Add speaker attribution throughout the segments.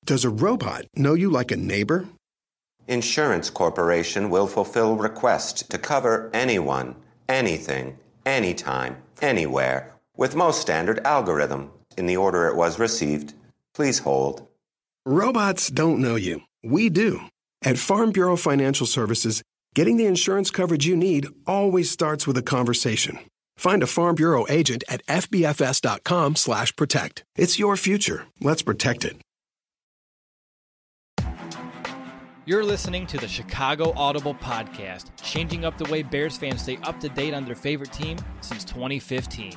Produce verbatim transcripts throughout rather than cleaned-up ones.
Speaker 1: Does a robot know you like a neighbor?
Speaker 2: Insurance Corporation will fulfill requests to cover anyone, anything, anytime, anywhere, with most standard algorithm in the order it was received. Please hold.
Speaker 1: Robots don't know you. We do. At Farm Bureau Financial Services, getting the insurance coverage you need always starts with a conversation. Find a Farm Bureau agent at F B F S dot com slash protect. It's your future. Let's protect it.
Speaker 3: You're listening to the Chicago Audible Podcast, changing up the way Bears fans stay up to date on their favorite team since twenty fifteen.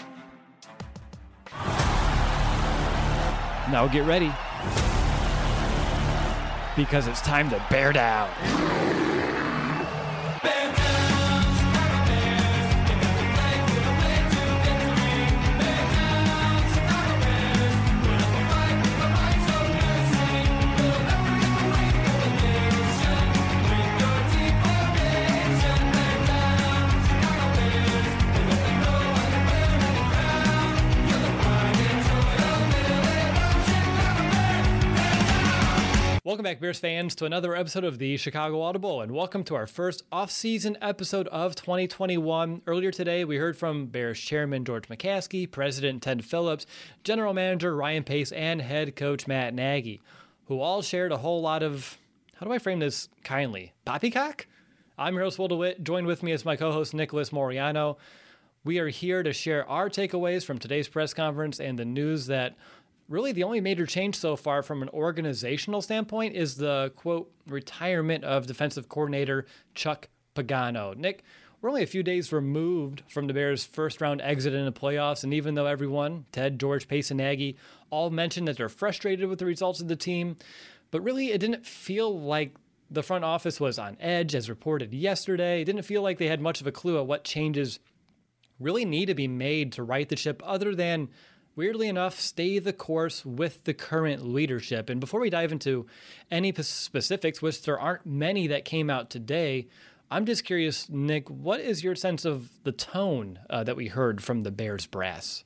Speaker 3: Now get ready, because it's time to bear down. Welcome back, Bears fans, to another episode of the Chicago Audible, and welcome to our first off-season episode of twenty twenty-one. Earlier today, we heard from Bears chairman George McCaskey, president Ted Phillips, general manager Ryan Pace, and head coach Matt Nagy, who all shared a whole lot of, how do I frame this kindly, poppycock? I'm your host, Will DeWitt. Joined with me is my co-host, Nicholas Moriano. We are here to share our takeaways from today's press conference and the news that really the only major change so far from an organizational standpoint is the, quote, retirement of defensive coordinator Chuck Pagano. Nick, we're only a few days removed from the Bears' first-round exit in the playoffs, and even though everyone, Ted, George, Pace, and Nagy, all mentioned that they're frustrated with the results of the team, but really it didn't feel like the front office was on edge, as reported yesterday. It didn't feel like they had much of a clue at what changes really need to be made to right the ship other than, weirdly enough, stay the course with the current leadership. And before we dive into any specifics, which there aren't many that came out today, I'm just curious, Nick, what is your sense of the tone uh, that we heard from the Bears brass?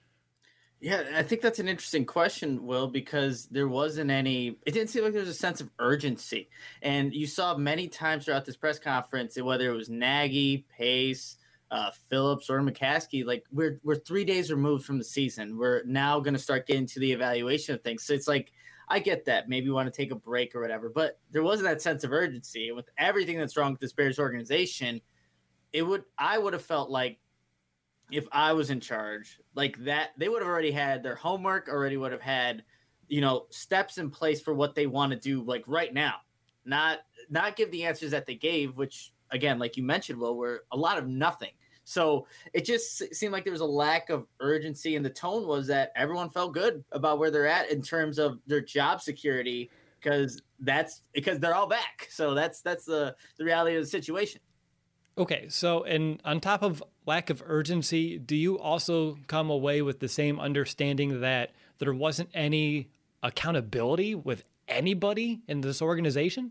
Speaker 4: Yeah, I think that's an interesting question, Will, because there wasn't any, it didn't seem like there was a sense of urgency. And you saw many times throughout this press conference, whether it was Nagy, Pace, Uh, Phillips or McCaskey, like we're we're three days removed from the season. We're now going to start getting to the evaluation of things. So it's like, I get that. Maybe you want to take a break or whatever, but there wasn't that sense of urgency. And with everything that's wrong with this Bears organization, it would I would have felt like if I was in charge, like that, they would have already had their homework, already would have had, you know, steps in place for what they want to do, like right now, not not give the answers that they gave, which, again, like you mentioned, Will, were a lot of nothing. So it just seemed like there was a lack of urgency, and the tone was that everyone felt good about where they're at in terms of their job security, because that's because they're all back. So that's that's the, the reality of the situation.
Speaker 3: Okay, so and on top of lack of urgency, do you also come away with the same understanding that there wasn't any accountability with anybody in this organization?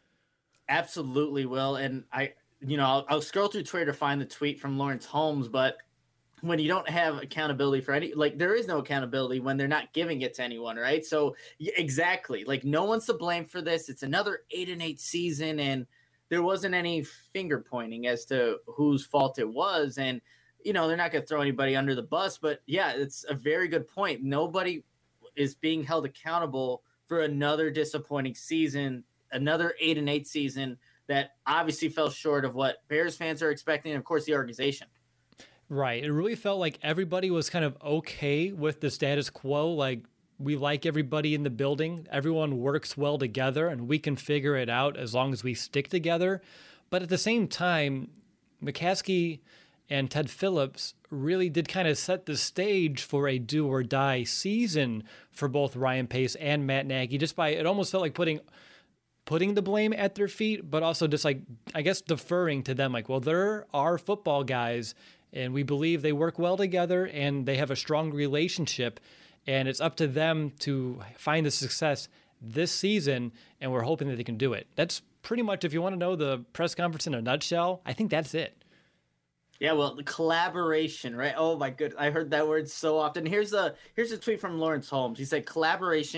Speaker 4: Absolutely, Will. And I, you know, I'll, I'll scroll through Twitter to find the tweet from Lawrence Holmes, but when you don't have accountability for any, like there is no accountability when they're not giving it to anyone, right? So exactly, like no one's to blame for this. It's another eight and eight season, and there wasn't any finger pointing as to whose fault it was. And, you know, they're not going to throw anybody under the bus, but yeah, it's a very good point. Nobody is being held accountable for another disappointing season, another eight and eight season that obviously fell short of what Bears fans are expecting, and of course the organization.
Speaker 3: Right. It really felt like everybody was kind of okay with the status quo. Like, we like everybody in the building. Everyone works well together, and we can figure it out as long as we stick together. But at the same time, McCaskey and Ted Phillips really did kind of set the stage for a do-or-die season for both Ryan Pace and Matt Nagy, just by, it almost felt like putting putting the blame at their feet, but also just like, I guess, deferring to them. Like, well, they're our football guys, and we believe they work well together, and they have a strong relationship, and it's up to them to find the success this season, and we're hoping that they can do it. That's pretty much, if you want to know the press conference in a nutshell, I think that's it.
Speaker 4: Yeah, well, the collaboration, right? Oh my goodness, I heard that word so often. Here's a here's a tweet from Lawrence Holmes. He said, "Collaboration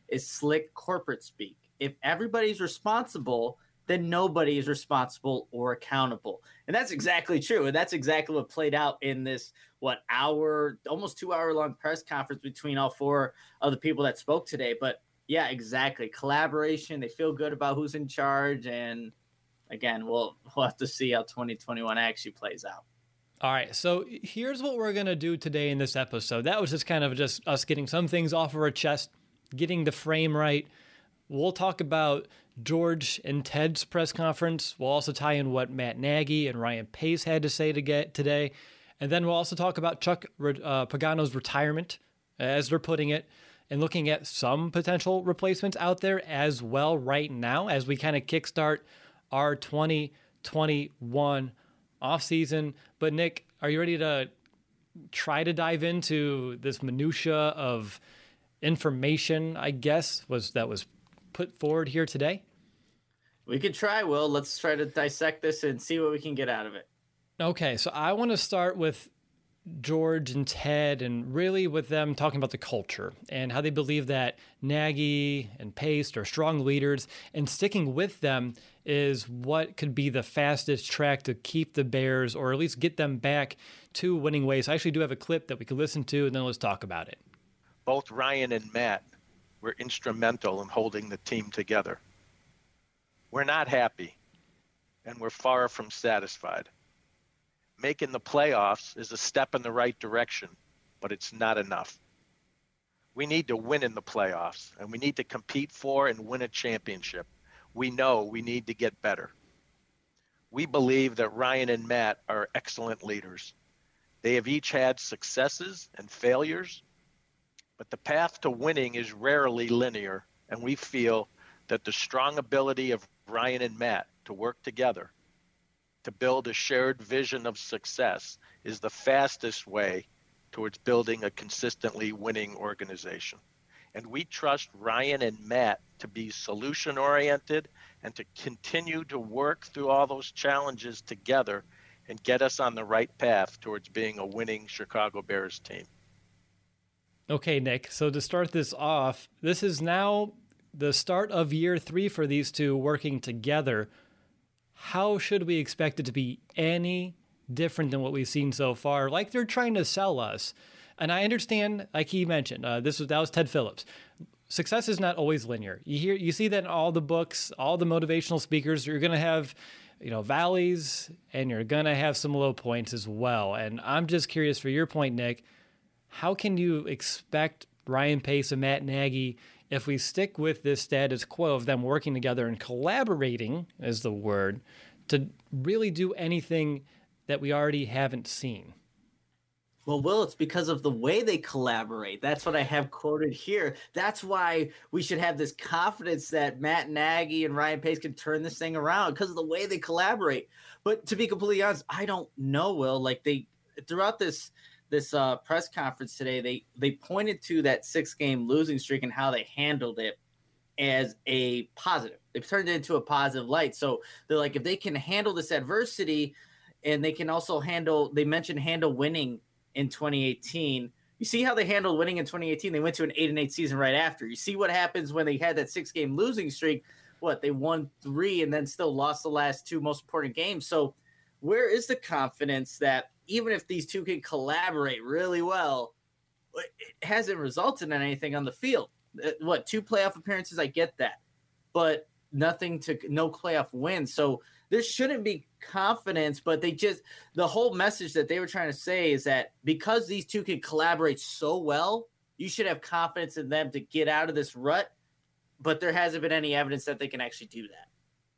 Speaker 4: is slick corporate speak. If everybody's responsible, then nobody is responsible or accountable. And that's exactly true. And that's exactly what played out in this, what, hour, almost two hour long press conference between all four of the people that spoke today. But yeah, exactly. Collaboration. They feel good about who's in charge. And again, we'll, we'll have to see how twenty twenty-one actually plays out.
Speaker 3: All right, so here's what we're going to do today in this episode. That was just kind of just us getting some things off of our chest, getting the frame right. We'll talk about George and Ted's press conference. We'll also tie in what Matt Nagy and Ryan Pace had to say to get today. And then we'll also talk about Chuck uh, Pagano's retirement, as they're putting it, and looking at some potential replacements out there as well right now as we kind of kickstart our twenty twenty-one offseason. But Nick, are you ready to try to dive into this minutia of information, I guess, was that was put forward here today?
Speaker 4: We could try, Will. Let's try to dissect this and see what we can get out of it.
Speaker 3: Okay, so I want to start with George and Ted, and really with them talking about the culture and how they believe that Nagy and Pace are strong leaders, and sticking with them is what could be the fastest track to keep the Bears, or at least get them back to winning ways. I actually do have a clip that we could listen to, and then let's talk about it.
Speaker 5: Both Ryan and Matt were instrumental in holding the team together. We're not happy, and we're far from satisfied. Making the playoffs is a step in the right direction, but it's not enough. We need to win in the playoffs, and we need to compete for and win a championship. We know we need to get better. We believe that Ryan and Matt are excellent leaders. They have each had successes and failures, but the path to winning is rarely linear, and we feel that the strong ability of Ryan and Matt to work together to build a shared vision of success is the fastest way towards building a consistently winning organization. And we trust Ryan and Matt to be solution-oriented and to continue to work through all those challenges together and get us on the right path towards being a winning Chicago Bears team.
Speaker 3: Okay, Nick, so to start this off, this is now the start of year three for these two working together. How should we expect it to be any different than what we've seen so far? Like they're trying to sell us. And I understand, like he mentioned, uh, this was that was Ted Phillips. Success is not always linear. You hear, you see that in all the books, all the motivational speakers. You're going to have, you know, valleys, and you're going to have some low points as well. And I'm just curious, for your point, Nick, how can you expect Ryan Pace and Matt Nagy, if we stick with this status quo of them working together and collaborating, is the word, to really do anything that we already haven't seen?
Speaker 4: Well, Will, it's because of the way they collaborate. That's what I have quoted here. That's why we should have this confidence that Matt Nagy and Ryan Pace can turn this thing around, because of the way they collaborate. But to be completely honest, I don't know, Will. Like they throughout this this uh, press conference today, they they pointed to that six game losing streak and how they handled it as a positive. They turned it into a positive light. So they're like, if they can handle this adversity, and they can also handle, they mentioned handle winning in twenty eighteen. You see how they handled winning in twenty eighteen. They went to an eight and eight season right after. You see what happens when they had that six game losing streak. What, they won three and then still lost the last two most important games. So where is the confidence that even if these two can collaborate really well, it hasn't resulted in anything on the field? What, two playoff appearances? I get that, but nothing to no playoff wins. So there shouldn't be confidence, but they just, the whole message that they were trying to say is that because these two can collaborate so well, you should have confidence in them to get out of this rut. But there hasn't been any evidence that they can actually do that.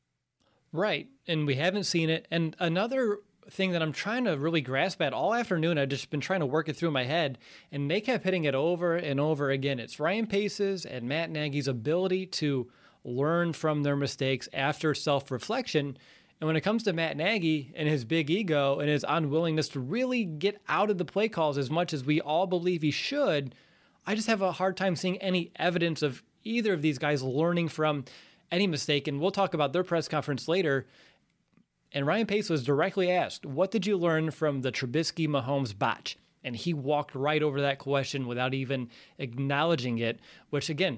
Speaker 3: Right. And we haven't seen it. And another thing that I'm trying to really grasp at all afternoon, I've just been trying to work it through my head, and they kept hitting it over and over again. It's Ryan Pace's and Matt Nagy's ability to learn from their mistakes after self-reflection. And when it comes to Matt Nagy and his big ego and his unwillingness to really get out of the play calls as much as we all believe he should, I just have a hard time seeing any evidence of either of these guys learning from any mistake. And we'll talk about their press conference later. And Ryan Pace was directly asked, what did you learn from the Trubisky-Mahomes botch? And he walked right over that question without even acknowledging it, which again,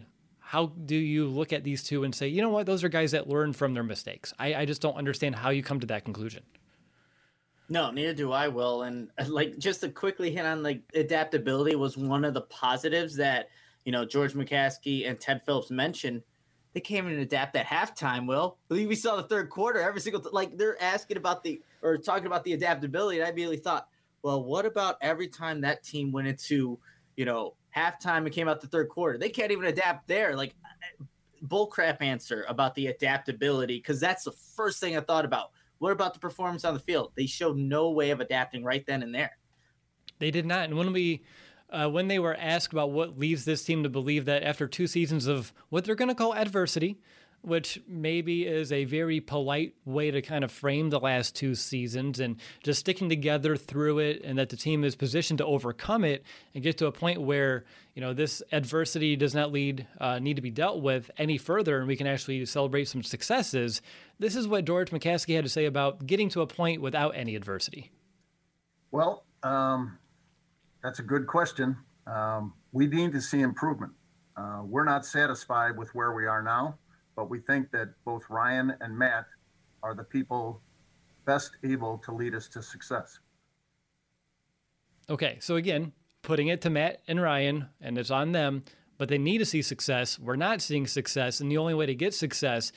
Speaker 3: how do you look at these two and say, you know what, those are guys that learn from their mistakes? I, I just don't understand how you come to that conclusion.
Speaker 4: No, neither do I, Will. And like just to quickly hit on like adaptability was one of the positives that, you know, George McCaskey and Ted Phillips mentioned. They came in and adapt at halftime, Will. We saw the third quarter, every single, th- like they're asking about the, or talking about the adaptability. And I immediately thought, well, what about every time that team went into, you know, halftime and came out the third quarter? They can't even adapt there. Like bullcrap answer about the adaptability. Cause that's the first thing I thought about. What about the performance on the field? They showed no way of adapting right then and there.
Speaker 3: They did not. And when we, uh, when they were asked about what leads this team to believe that after two seasons of what they're going to call adversity, which maybe is a very polite way to kind of frame the last two seasons and just sticking together through it, and that the team is positioned to overcome it and get to a point where, you know, this adversity does not lead, uh, need to be dealt with any further, and we can actually celebrate some successes. This is what George McCaskey had to say about getting to a point without any adversity.
Speaker 6: Well, um, that's a good question. Um, we need to see improvement. Uh, we're not satisfied with where we are now, but we think that both Ryan and Matt are the people best able to lead us to success.
Speaker 3: Okay, so again, putting it to Matt and Ryan, and it's on them, but they need to see success. We're not seeing success, and the only way to get success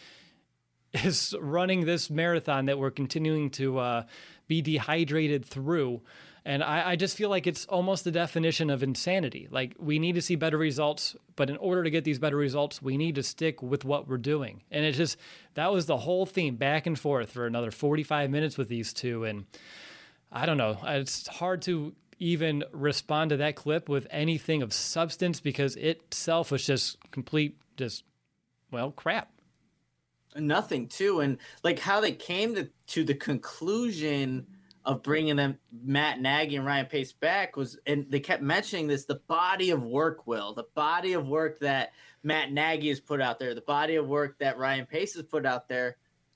Speaker 3: is running this marathon that we're continuing to uh, be dehydrated through. And I, I just feel like it's almost the definition of insanity. Like, we need to see better results, but in order to get these better results, we need to stick with what we're doing. And it just, that was the whole theme, back and forth for another forty-five minutes with these two. And I don't know, it's hard to even respond to that clip with anything of substance, because it itself was just complete, just, well, crap.
Speaker 4: Nothing too. And like how they came to, to the conclusion of bringing them Matt Nagy and Ryan Pace back was, and they kept mentioning this, the body of work, Will, the body of work that Matt Nagy has put out there, the body of work that Ryan Pace has put out there.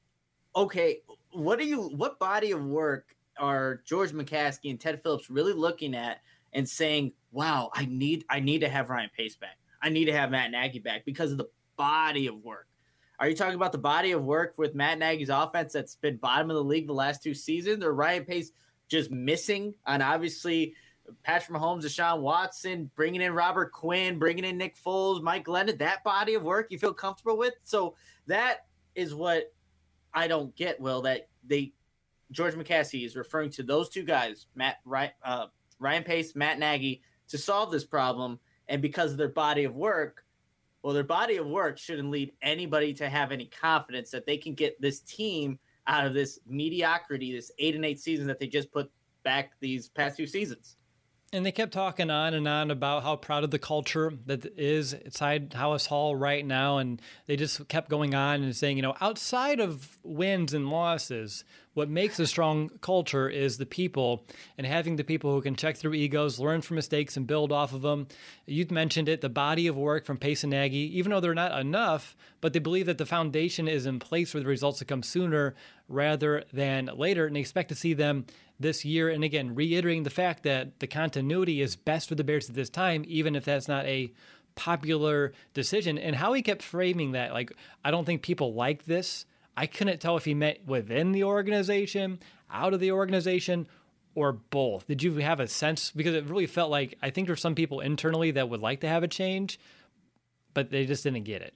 Speaker 4: Okay, what do you, what body of work are George McCaskey and Ted Phillips really looking at and saying, wow, I need, I need to have Ryan Pace back. I need to have Matt Nagy back because of the body of work. Are you talking about the body of work with Matt Nagy's offense that's been bottom of the league the last two seasons, or Ryan Pace just missing on obviously Patrick Mahomes, Deshaun Watson, bringing in Robert Quinn, bringing in Nick Foles, Mike Glennon, that body of work you feel comfortable with? So that is what I don't get, Will, that they George McCaskey is referring to those two guys, Matt uh, Ryan Pace, Matt Nagy, to solve this problem, and because of their body of work, well, their body of work shouldn't lead anybody to have any confidence that they can get this team out of this mediocrity, this eight and eight season that they just put back these past few seasons.
Speaker 3: And they kept talking on and on about how proud of the culture that is inside Halas Hall right now. And they just kept going on and saying, you know, outside of wins and losses, what makes a strong culture is the people, and having the people who can check through egos, learn from mistakes, and build off of them. You mentioned it, the body of work from Pace and Nagy, even though they're not enough, but they believe that the foundation is in place for the results to come sooner rather than later, and they expect to see them this year. And again, reiterating the fact that the continuity is best for the Bears at this time, even if that's not a popular decision. And how he kept framing that, like, I don't think people like this. I couldn't tell if he meant within the organization, out of the organization, or both. Did you have a sense? Because it really felt like, I think there's some people internally that would like to have a change, but they just didn't get it.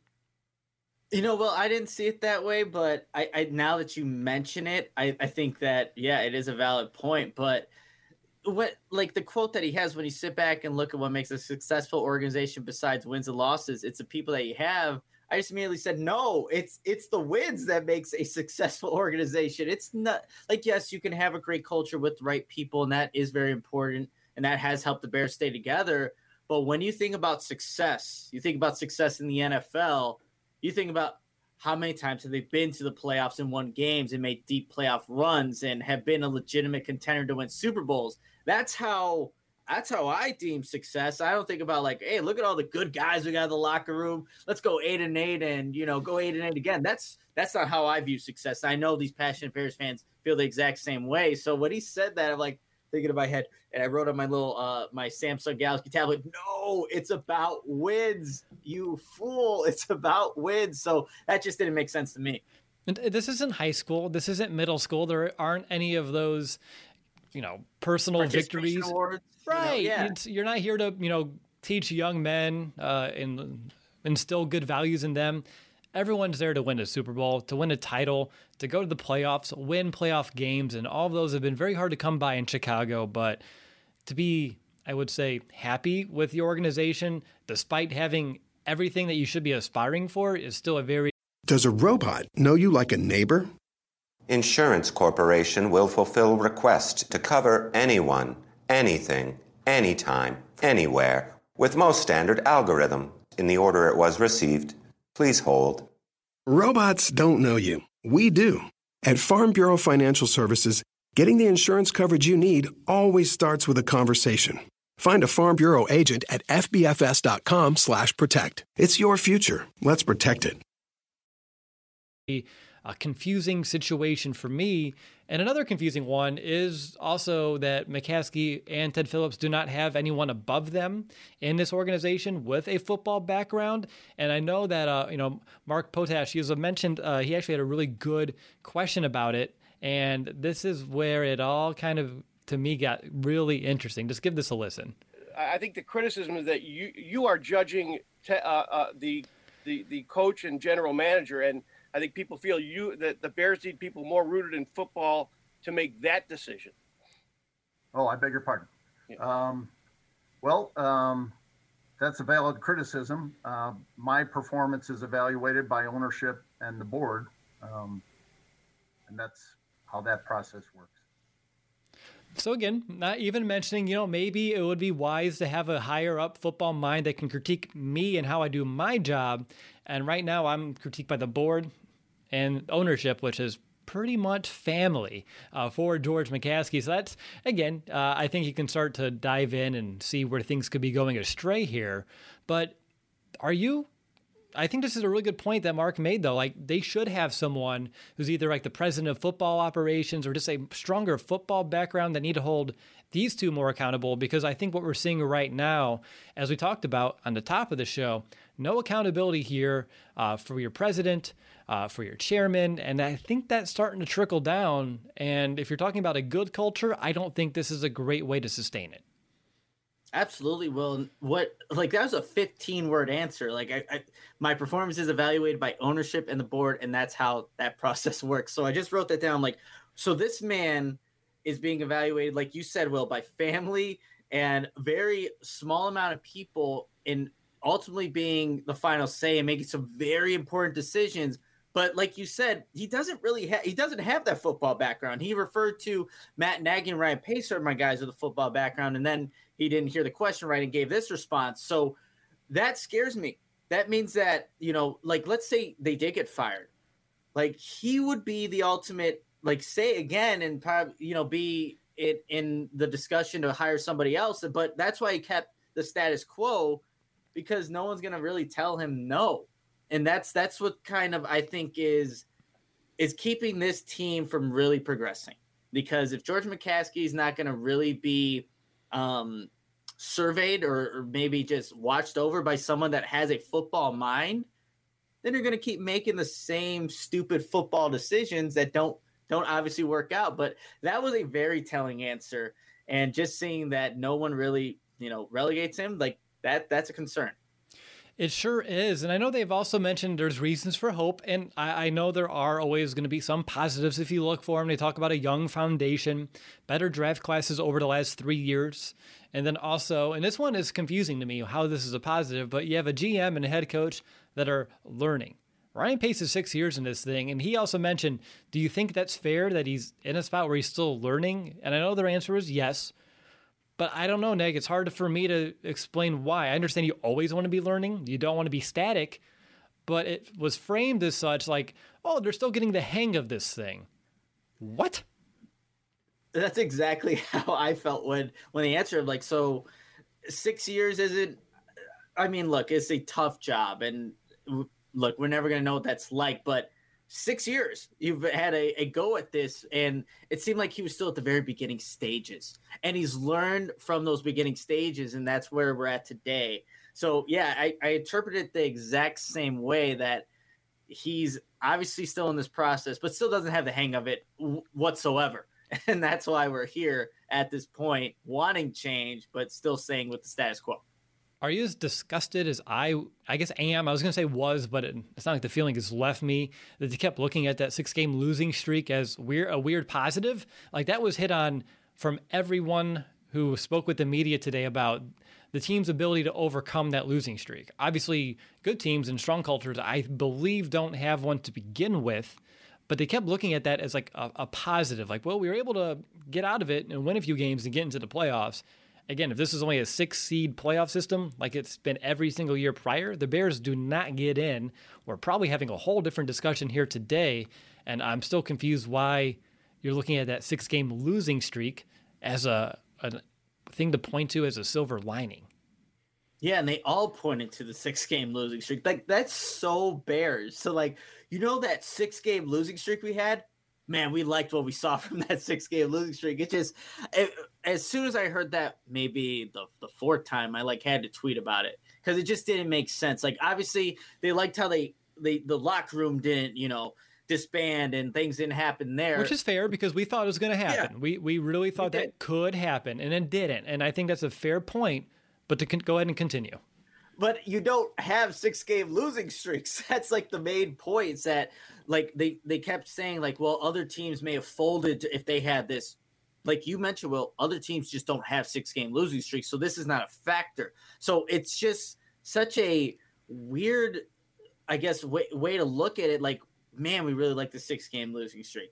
Speaker 4: You know, well, I didn't see it that way, but I, I now that you mention it, I, I think that, yeah, it is a valid point. But what, like the quote that he has, when you sit back and look at what makes a successful organization besides wins and losses, it's the people that you have. I just immediately said, no, it's it's the wins that makes a successful organization. It's not like, yes, you can have a great culture with the right people, and that is very important, and that has helped the Bears stay together. But when you think about success, you think about success in the N F L, you think about how many times have they been to the playoffs and won games and made deep playoff runs and have been a legitimate contender to win Super Bowls. That's how that's how I deem success. I don't think about like, hey, look at all the good guys we got in the locker room. Let's go eight and eight and, you know, go eight and eight again. That's that's not how I view success. I know these passionate Bears fans feel the exact same way. So when he said that, I'm like, thinking in my head, and I wrote on my little uh my Samsung Galaxy tablet, no, it's about wins, you fool. It's about wins. So that just didn't make sense to me.
Speaker 3: And this isn't high school. This isn't middle school. There aren't any of those, you know, personal victories.
Speaker 4: Awards,
Speaker 3: right.
Speaker 4: You know, yeah.
Speaker 3: It's, you're not here to, you know, teach young men uh, and instill good values in them. Everyone's there to win a Super Bowl, to win a title, to go to the playoffs, win playoff games, and all of those have been very hard to come by in Chicago. But to be, I would say, happy with the organization, despite having everything that you should be aspiring for, is still a very...
Speaker 1: Does a robot know you like a neighbor?
Speaker 2: Insurance Corporation will fulfill request to cover anyone, anything, anytime, anywhere, with most standard algorithm in the order it was received. Please hold.
Speaker 1: Robots don't know you. We do. At Farm Bureau Financial Services, getting the insurance coverage you need always starts with a conversation. Find a Farm Bureau agent at fbfs.com slash protect. It's your future. Let's protect it.
Speaker 3: A confusing situation for me. And another confusing one is also that McCaskey and Ted Phillips do not have anyone above them in this organization with a football background. And I know that, uh, you know, Mark Potash, he was mentioned, uh, he actually had a really good question about it. And this is where it all kind of, to me, got really interesting. Just give this a listen.
Speaker 7: I think the criticism is that you you are judging te- uh, uh, the, the the coach and general manager, and I think people feel you that the Bears need people more rooted in football to make that decision.
Speaker 6: Oh, I beg your pardon.
Speaker 7: Yeah.
Speaker 6: Um, well, um, that's a valid criticism. Uh, my performance is evaluated by ownership and the board, um, and that's how that process works.
Speaker 3: So again, not even mentioning, you know, maybe it would be wise to have a higher up football mind that can critique me and how I do my job. And right now I'm critiqued by the board and ownership, which is pretty much family uh, for George McCaskey. So that's, again, uh, I think you can start to dive in and see where things could be going astray here. But are you... I think this is a really good point that Mark made, though. Like, they should have someone who's either like the president of football operations or just a stronger football background that need to hold these two more accountable, because I think what we're seeing right now, as we talked about on the top of the show, no accountability here uh, for your president, uh, for your chairman, and I think that's starting to trickle down. And if you're talking about a good culture, I don't think this is a great way to sustain it.
Speaker 4: Absolutely. Well, what, like, that was a fifteen word answer. Like, I, I, my performance is evaluated by ownership and the board, and that's how that process works. So I just wrote that down. Like, so this man is being evaluated, like you said, Will, by family and very small amount of people, in ultimately being the final say and making some very important decisions. But like you said, he doesn't really have, he doesn't have that football background. He referred to Matt Nagy and Ryan Pace are my guys with a football background, and then he didn't hear the question right and gave this response. So that scares me. That means that, you know, like, let's say they did get fired. Like, he would be the ultimate, like, say again, and probably, you know, be it in the discussion to hire somebody else. But that's why he kept the status quo, because no one's going to really tell him no. And that's, that's what kind of, I think is, is keeping this team from really progressing. Because if George McCaskey is not going to really be, um, surveyed or, or maybe just watched over by someone that has a football mind, then you're going to keep making the same stupid football decisions that don't don't obviously work out. But that was a very telling answer, and just seeing that no one really, you know, relegates him, like that, that's a concern.
Speaker 3: It sure is. And I know they've also mentioned there's reasons for hope. And I, I know there are always going to be some positives if you look for them. They talk about a young foundation, better draft classes over the last three years. And then also, and this one is confusing to me how this is a positive, but you have a G M and a head coach that are learning. Ryan Pace is six years in this thing. And he also mentioned, do you think that's fair that he's in a spot where he's still learning? And I know their answer is yes. But I don't know, Neg. It's hard for me to explain why. I understand you always want to be learning. You don't want to be static. But it was framed as such, like, oh, they're still getting the hang of this thing. What?
Speaker 4: That's exactly how I felt when, when they answered. Like, so six years isn't, I mean, look, it's a tough job. And look, we're never going to know what that's like. But six years you've had a, a go at this, and it seemed like he was still at the very beginning stages, and he's learned from those beginning stages, and that's where we're at today. So yeah, I, I interpreted it the exact same way, that he's obviously still in this process, but still doesn't have the hang of it w- whatsoever. And that's why we're here at this point, wanting change, but still staying with the status quo.
Speaker 3: Are you as disgusted as I, I guess, am? I was going to say was, but it, it's not like the feeling has left me, that they kept looking at that six-game losing streak as weird, a weird positive. Like, that was hit on from everyone who spoke with the media today about the team's ability to overcome that losing streak. Obviously, good teams and strong cultures, I believe, don't have one to begin with, but they kept looking at that as like a, a positive. Like, well, we were able to get out of it and win a few games and get into the playoffs. Again, if this is only a six-seed playoff system, like it's been every single year prior, the Bears do not get in. We're probably having a whole different discussion here today, and I'm still confused why you're looking at that six-game losing streak as a, a thing to point to as a silver lining.
Speaker 4: Yeah, and they all pointed to the six-game losing streak. Like, that's so Bears. So, like, you know that six-game losing streak we had? Man, we liked what we saw from that six-game losing streak. It just, it, as soon as I heard that, maybe the the fourth time, I like had to tweet about it because it just didn't make sense. Like, obviously, they liked how they, they the locker room didn't, you know, disband and things didn't happen there,
Speaker 3: which is fair because we thought it was going to happen.
Speaker 4: Yeah.
Speaker 3: We we really thought
Speaker 4: We
Speaker 3: that
Speaker 4: did.
Speaker 3: could happen, and it didn't. And I think that's a fair point. But to con- go ahead and continue.
Speaker 4: But you don't have six game losing streaks. That's like the main points that like they, they kept saying like, well, other teams may have folded if they had this. Like you mentioned, well, other teams just don't have six game losing streaks. So this is not a factor. So it's just such a weird, I guess, way, way to look at it. Like, man, we really like the six game losing streak.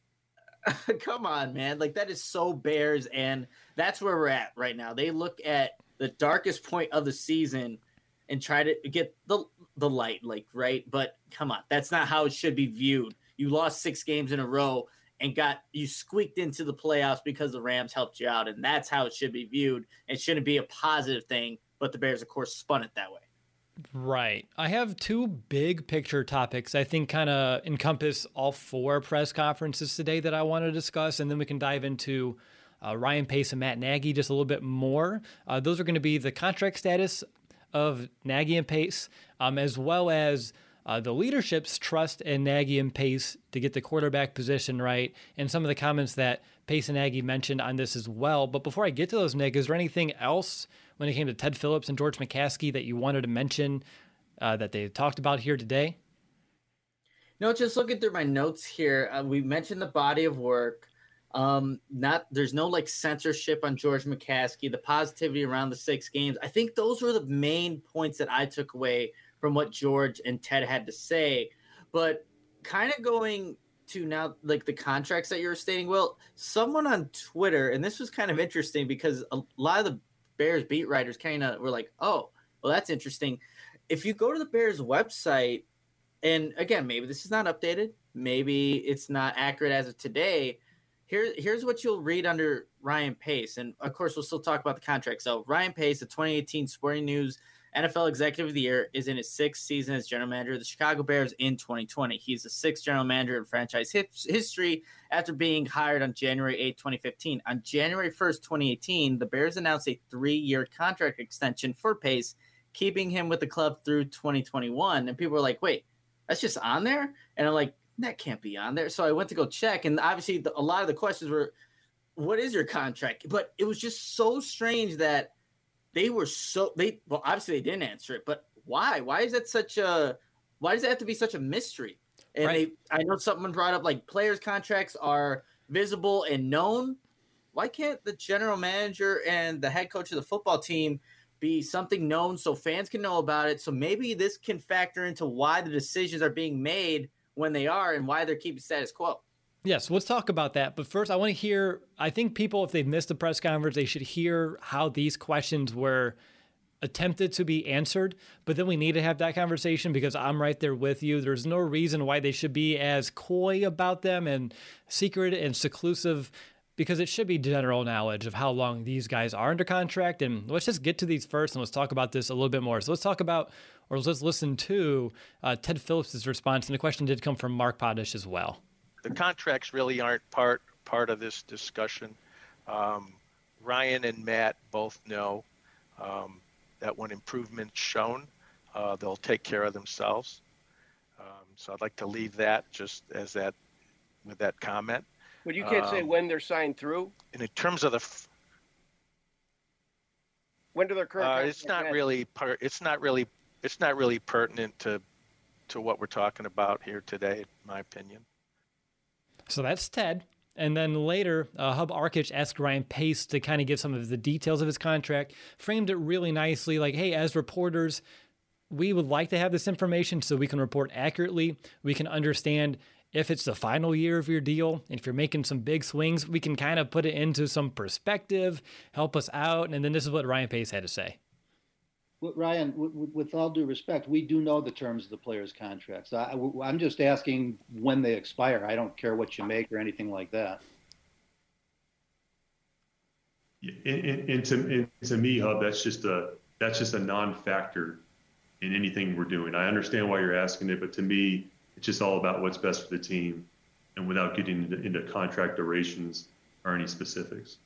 Speaker 4: Come on, man. Like that is so Bears. And that's where we're at right now. They look at the darkest point of the season and try to get the the light, like, right? But come on, that's not how it should be viewed. You lost six games in a row and got you squeaked into the playoffs because the Rams helped you out, and that's how it should be viewed. It shouldn't be a positive thing, but the Bears, of course, spun it that way.
Speaker 3: Right. I have two big picture topics I think kind of encompass all four press conferences today that I want to discuss, and then we can dive into Uh, Ryan Pace and Matt Nagy just a little bit more. Uh, those are going to be the contract status of Nagy and Pace, um, as well as uh, the leadership's trust in Nagy and Pace to get the quarterback position right, and some of the comments that Pace and Nagy mentioned on this as well. But before I get to those, Nick, is there anything else when it came to Ted Phillips and George McCaskey that you wanted to mention uh, that they talked about here today?
Speaker 4: No, just looking through my notes here, uh, we mentioned the body of work. Um, not there's no like censorship on George McCaskey, the positivity around the six games. I think those were the main points that I took away from what George and Ted had to say. But kind of going to now like the contracts that you were stating, Will, someone on Twitter, and this was kind of interesting because a lot of the Bears beat writers kind of were like, oh, well, that's interesting. If you go to the Bears website, and again, maybe this is not updated, maybe it's not accurate as of today. Here, here's what you'll read under Ryan Pace. And, of course, we'll still talk about the contract. So, Ryan Pace, the twenty eighteen Sporting News N F L Executive of the Year, is in his sixth season as general manager of the Chicago Bears in twenty twenty. He's the sixth general manager in franchise his- history after being hired on January eighth, twenty fifteen. On January first, twenty eighteen, the Bears announced a three-year contract extension for Pace, keeping him with the club through twenty twenty-one. And people were like, wait, that's just on there? And I'm like, that can't be on there. So I went to go check, and obviously the, a lot of the questions were, what is your contract? But it was just so strange that they were so they well obviously they didn't answer it, but why? Why is that such a why does it have to be such a mystery? And
Speaker 3: Right.
Speaker 4: they I know someone brought up like players' contracts are visible and known. Why can't the general manager and the head coach of the football team be something known so fans can know about it? So maybe this can factor into why the decisions are being made when they are and why they're keeping status quo.
Speaker 3: Yes, let's talk about that. But first, I want to hear, I think people, if they've missed the press conference, they should hear how these questions were attempted to be answered. But then we need to have that conversation because I'm right there with you. There's no reason why they should be as coy about them and secret and seclusive because it should be general knowledge of how long these guys are under contract. And let's just get to these first, and let's talk about this a little bit more. So let's talk about, or let's listen to uh, Ted Phillips' response. And the question did come from Mark Potash as well.
Speaker 5: The contracts really aren't part part of this discussion. Um, Ryan and Matt both know um, that when improvement's shown, uh, they'll take care of themselves. Um, so I'd like to leave that just as that with that comment.
Speaker 7: But you can't um, say when they're signed through.
Speaker 5: And in terms of the, f-
Speaker 7: when do their current?
Speaker 5: Uh, it's not end? really part. It's not really. It's not really pertinent to, to what we're talking about here today, in my opinion.
Speaker 3: So that's Ted. And then later, uh, Hub Arkush asked Ryan Pace to kind of give some of the details of his contract, framed it really nicely, like, hey, as reporters, we would like to have this information so we can report accurately. We can understand if it's the final year of your deal, and if you're making some big swings, we can kind of put it into some perspective, help us out. And then this is what Ryan Pace had to say.
Speaker 8: Ryan, with all due respect, we do know the terms of the players' contracts. I, I'm just asking when they expire. I don't care what you make or anything like that.
Speaker 9: And, and, and, to, and to me, Hub, that's just a that's just a non-factor in anything we're doing. I understand why you're asking it, but to me, it's just all about what's best for the team, and without getting into, into contract durations or any specifics.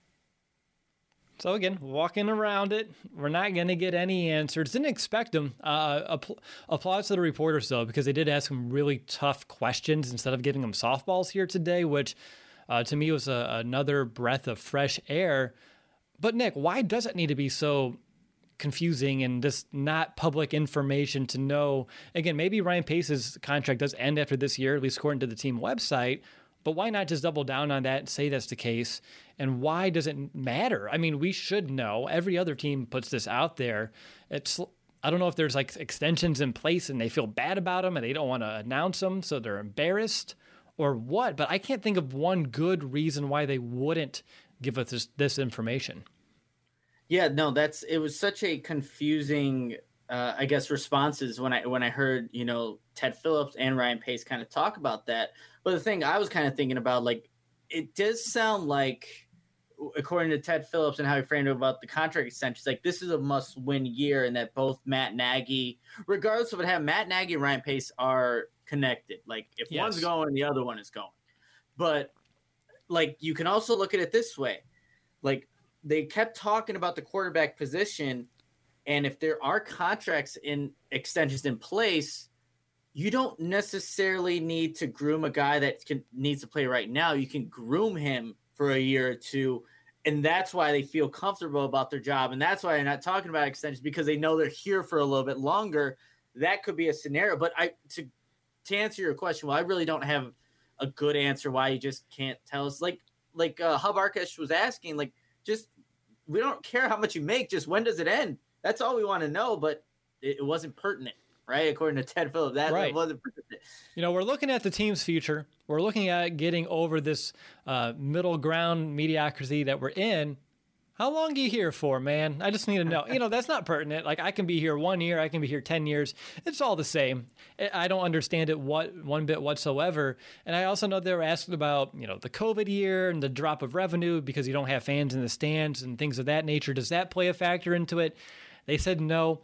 Speaker 3: So again, walking around it, we're not going to get any answers. Didn't expect them. Uh, app- applause to the reporters, though, because they did ask some really tough questions instead of giving them softballs here today, which uh, to me was a, another breath of fresh air. But Nick, why does it need to be so confusing and just not public information to know? Again, maybe Ryan Pace's contract does end after this year, at least according to the team website. But why not just double down on that and say that's the case? And why does it matter? I mean, we should know. Every other team puts this out there. It's I don't know if there's like extensions in place and they feel bad about them and they don't want to announce them, so they're embarrassed or what. But I can't think of one good reason why they wouldn't give us this, this information.
Speaker 4: Yeah, no, that's it was such a confusing, uh, I guess, responses when I when I heard, you know, Ted Phillips and Ryan Pace kind of talk about that. But the thing I was kind of thinking about, like, it does sound like, according to Ted Phillips and how he framed it about the contract extensions, like this is a must-win year, and that both Matt Nagy, regardless of what happened, Matt Nagy and Ryan Pace are connected. Like if yes. one's going, the other one is going. But like you can also look at it this way, like they kept talking about the quarterback position, and if there are contracts in extensions in place, you don't necessarily need to groom a guy that can, needs to play right now. You can groom him for a year or two, and that's why they feel comfortable about their job, and that's why they're not talking about extensions, because they know they're here for a little bit longer. That could be a scenario. But I to to answer your question, well, I really don't have a good answer why you just can't tell us. Like like uh, Hub Arkush was asking, like just we don't care how much you make, just when does it end? That's all we want to know. But it, it wasn't pertinent. Right, according to Ted Phillips, that,
Speaker 3: right.
Speaker 4: that wasn't.
Speaker 3: You know, we're looking at the team's future. We're looking at getting over this uh, middle ground mediocrity that we're in. How long are you here for, man? I just need to know. You know, that's not pertinent. Like, I can be here one year, I can be here ten years. It's all the same. I don't understand it what one bit whatsoever. And I also know they were asking about, you know, the COVID year and the drop of revenue because you don't have fans in the stands and things of that nature. Does that play a factor into it? They said no.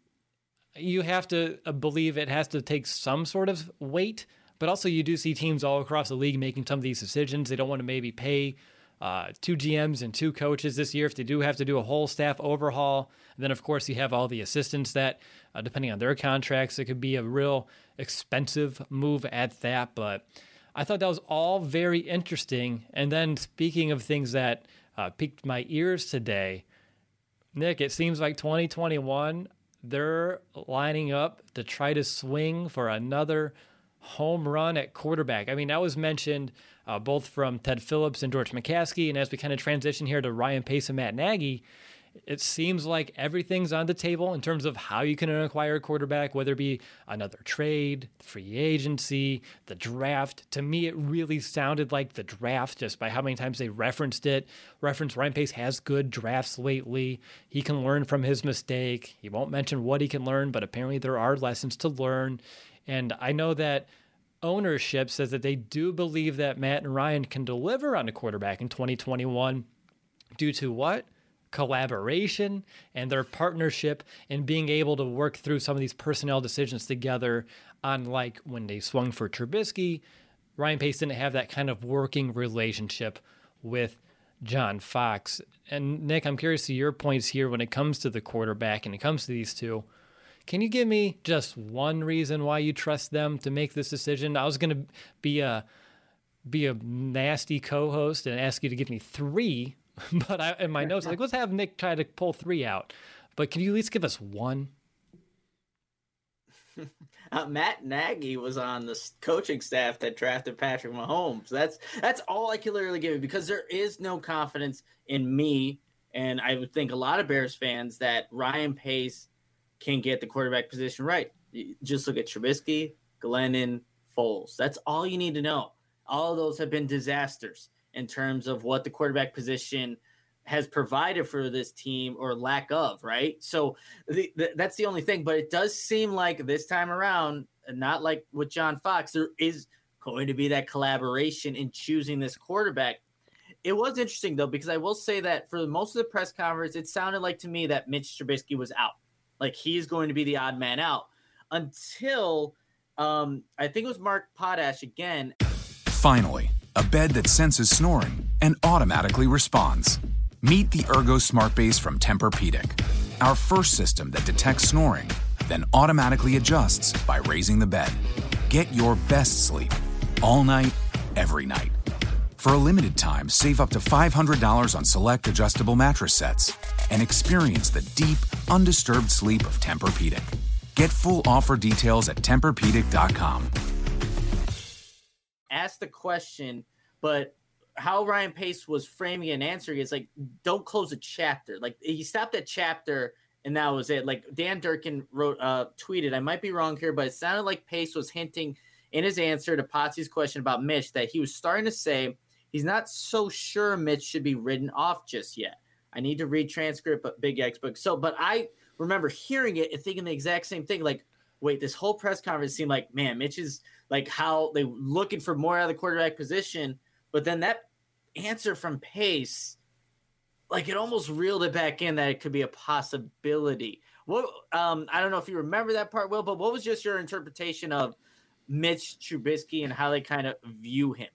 Speaker 3: You have to believe it has to take some sort of weight, but also you do see teams all across the league making some of these decisions. They don't want to maybe pay uh, two G Ms and two coaches this year if they do have to do a whole staff overhaul. And then, of course, you have all the assistants that, uh, depending on their contracts, it could be a real expensive move at that. But I thought that was all very interesting. And then speaking of things that uh, piqued my ears today, Nick, it seems like twenty twenty-one – they're lining up to try to swing for another home run at quarterback. I mean, that was mentioned uh, both from Ted Phillips and George McCaskey. And as we kind of transition here to Ryan Pace and Matt Nagy, it seems like everything's on the table in terms of how you can acquire a quarterback, whether it be another trade, free agency, the draft. To me, it really sounded like the draft just by how many times they referenced it. Reference Ryan Pace has good drafts lately. He can learn from his mistake. He won't mention what he can learn, but apparently there are lessons to learn. And I know that ownership says that they do believe that Matt and Ryan can deliver on a quarterback in twenty twenty-one due to what? Collaboration and their partnership and being able to work through some of these personnel decisions together. Unlike when they swung for Trubisky, Ryan Pace didn't have that kind of working relationship with John Fox. And Nick, I'm curious to your points here when it comes to the quarterback and it comes to these two. Can you give me just one reason why you trust them to make this decision? I was going to be a be a nasty co-host and ask you to give me three, but I, in my notes, I'm like, let's have Nick try to pull three out. But can you at least give us one?
Speaker 4: Uh, Matt Nagy was on the coaching staff that drafted Patrick Mahomes. That's that's all I can literally give you, because there is no confidence in me, and I would think a lot of Bears fans, that Ryan Pace can get the quarterback position right. You just look at Trubisky, Glennon, Foles. That's all you need to know. All of those have been disasters in terms of what the quarterback position has provided for this team, or lack of, right? So the, the, that's the only thing. But it does seem like this time around, not like with John Fox, there is going to be that collaboration in choosing this quarterback. It was interesting, though, because I will say that for most of the press conference, it sounded like to me that Mitch Trubisky was out. Like he's going to be the odd man out until um, I think it was Mark Potash again.
Speaker 10: Finally, a bed that senses snoring and automatically responds. Meet the Ergo Smart Base from Tempur-Pedic, our first system that detects snoring, then automatically adjusts by raising the bed. Get your best sleep all night, every night. For a limited time, save up to five hundred dollars on select adjustable mattress sets and experience the deep, undisturbed sleep of Tempur-Pedic. Get full offer details at Tempur Pedic dot com.
Speaker 4: Ask the question, but how Ryan Pace was framing and answering is like, don't close a chapter. Like he stopped at chapter and that was it. Like Dan Durkin wrote, uh, tweeted, I might be wrong here, but it sounded like Pace was hinting in his answer to Potsy's question about Mitch that he was starting to say he's not so sure Mitch should be written off just yet. I need to read transcript, but Big X book. So, but I remember hearing it and thinking the exact same thing. Like, wait, this whole press conference seemed like, man, Mitch is like how they looking for more out of the quarterback position. But then that answer from Pace, like it almost reeled it back in that it could be a possibility. What um, I don't know if you remember that part, Will, but what was just your interpretation of Mitch Trubisky and how they kind of view him?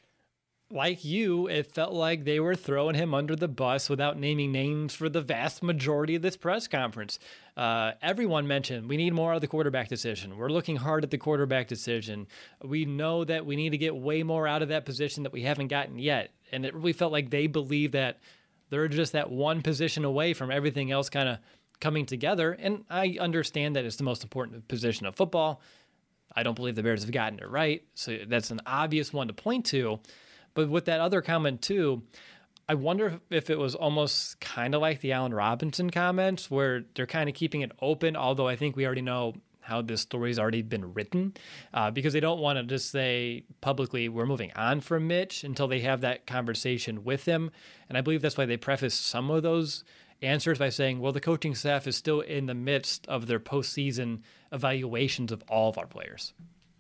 Speaker 3: Like you, it felt like they were throwing him under the bus without naming names for the vast majority of this press conference. Uh, everyone mentioned we need more out of the quarterback decision. We're looking hard at the quarterback decision. We know that we need to get way more out of that position that we haven't gotten yet. And it really felt like they believe that they're just that one position away from everything else kind of coming together. And I understand that it's the most important position of football. I don't believe the Bears have gotten it right. So that's an obvious one to point to. But with that other comment too, I wonder if it was almost kind of like the Allen Robinson comments where they're kind of keeping it open, although I think we already know how this story's already been written, uh, because they don't want to just say publicly we're moving on from Mitch until they have that conversation with him. And I believe that's why they preface some of those answers by saying, well, the coaching staff is still in the midst of their postseason evaluations of all of our players.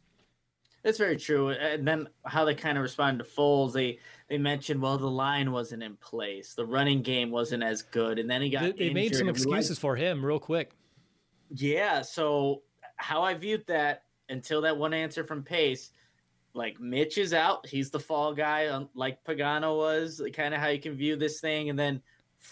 Speaker 4: That's very true. And then how they kind of responded to Foles, they they mentioned, well, the line wasn't in place. The running game wasn't as good. And then he got
Speaker 3: They, they made some excuses for him real quick.
Speaker 4: Yeah, so how I viewed that until that one answer from Pace, like Mitch is out. He's the fall guy, like Pagano was, kind of how you can view this thing. And then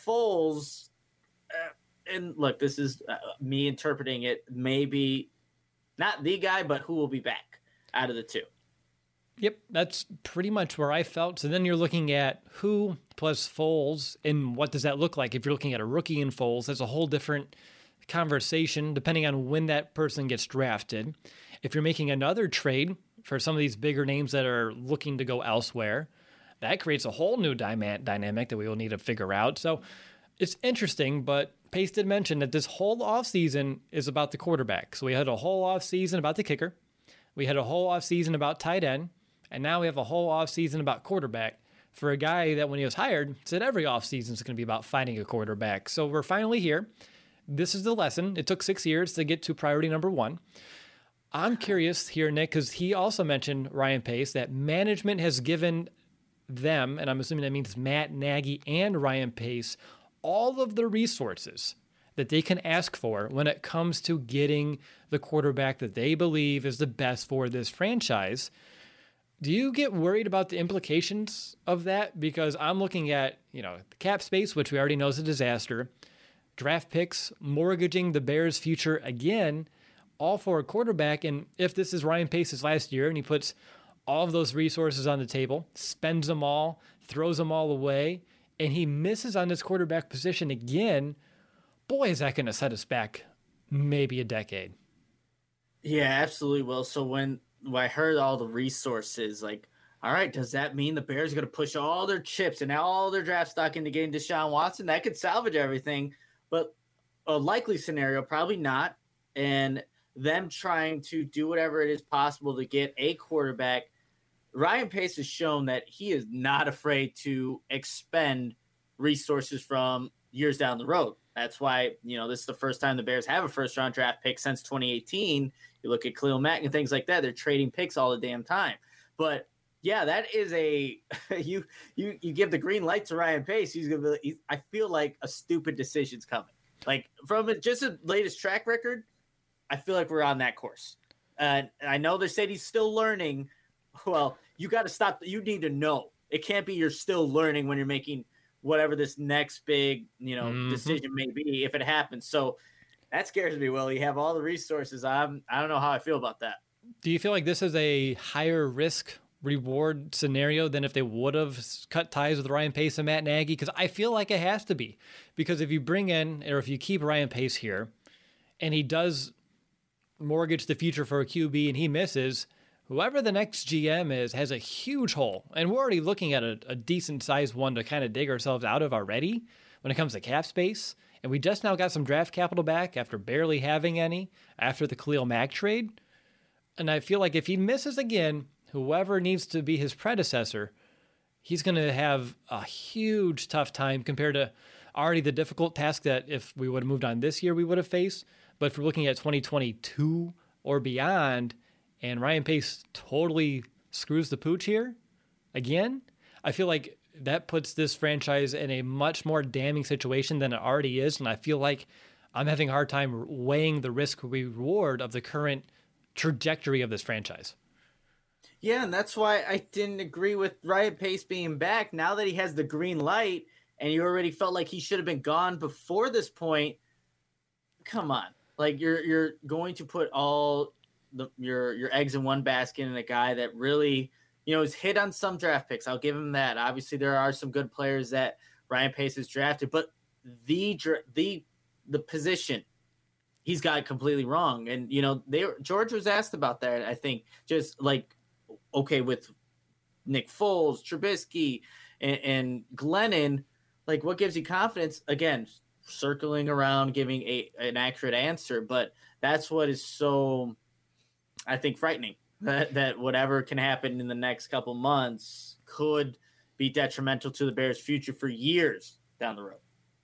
Speaker 4: Foles, uh, and look, this is uh, me interpreting it, maybe not the guy, but who will be back out of the two.
Speaker 3: Yep, that's pretty much where I felt. So then you're looking at who plus Foles, and what does that look like? If you're looking at a rookie in Foles, that's a whole different conversation depending on when that person gets drafted. If you're making another trade for some of these bigger names that are looking to go elsewhere, that creates a whole new dynamic that we will need to figure out. So it's interesting, but Pace did mention that this whole offseason is about the quarterback. So we had a whole offseason about the kicker. We had a whole offseason about tight end, and now we have a whole offseason about quarterback for a guy that when he was hired said every offseason is going to be about finding a quarterback. So we're finally here. This is the lesson. It took six years to get to priority number one. I'm curious here, Nick, because he also mentioned, Ryan Pace, that management has given them, and I'm assuming that means Matt Nagy and Ryan Pace, all of the resources that they can ask for when it comes to getting the quarterback that they believe is the best for this franchise. Do you get worried about the implications of that? Because I'm looking at, you know, the cap space, which we already know is a disaster, draft picks, mortgaging the Bears' future again, all for a quarterback. And if this is Ryan Pace's last year and he puts all of those resources on the table, spends them all, throws them all away, and he misses on his quarterback position again, boy, is that going to set us back maybe a decade.
Speaker 4: Yeah, absolutely will. So when, when I heard all the resources, like, all right, does that mean the Bears are going to push all their chips and all their draft stock into getting Deshaun Watson? That could salvage everything. But a likely scenario, probably not. And them trying to do whatever it is possible to get a quarterback. Ryan Pace has shown that he is not afraid to expend resources from years down the road. That's why, you know, this is the first time the Bears have a first round draft pick since twenty eighteen. You look at Khalil Mack and things like that. They're trading picks all the damn time. But yeah, that is a, you, you, you give the green light to Ryan Pace. He's going to be, he's, I feel like a stupid decision's coming. Like from just the latest track record, I feel like we're on that course. Uh, I know they said he's still learning. Well, you got to stop. You need to know. It can't be you're still learning when you're making whatever this next big, you know, mm-hmm. decision may be if it happens. So that scares me, Will. You have all the resources. I'm, I don't know how I feel about that.
Speaker 3: Do you feel like this is a higher risk reward scenario than if they would have cut ties with Ryan Pace and Matt Nagy? Because I feel like it has to be. Because if you bring in, or if you keep Ryan Pace here, and he does mortgage the future for a Q B and he misses, whoever the next G M is has a huge hole. And we're already looking at a, a decent sized one to kind of dig ourselves out of already when it comes to cap space. And we just now got some draft capital back after barely having any after the Khalil Mack trade. And I feel like if he misses again, whoever needs to be his predecessor, he's going to have a huge tough time compared to already the difficult task that if we would have moved on this year, we would have faced. But if we're looking at twenty twenty-two or beyond, and Ryan Pace totally screws the pooch here again, I feel like that puts this franchise in a much more damning situation than it already is. And I feel like I'm having a hard time weighing the risk reward of the current trajectory of this franchise.
Speaker 4: Yeah, and that's why I didn't agree with Ryan Pace being back. Now that he has the green light and you already felt like he should have been gone before this point, come on. Like you're you're going to put all the, your your eggs in one basket in a guy that really, you know, is hit on some draft picks. I'll give him that. Obviously, there are some good players that Ryan Pace has drafted, but the the the position he's got it completely wrong. And you know, they George was asked about that. I think just like okay with Nick Foles, Trubisky, and, and Glennon, like what gives you confidence? Again, circling around, giving a an accurate answer, but that's what is so, I think, frightening. That that whatever can happen in the next couple months could be detrimental to the Bears' future for years down the road.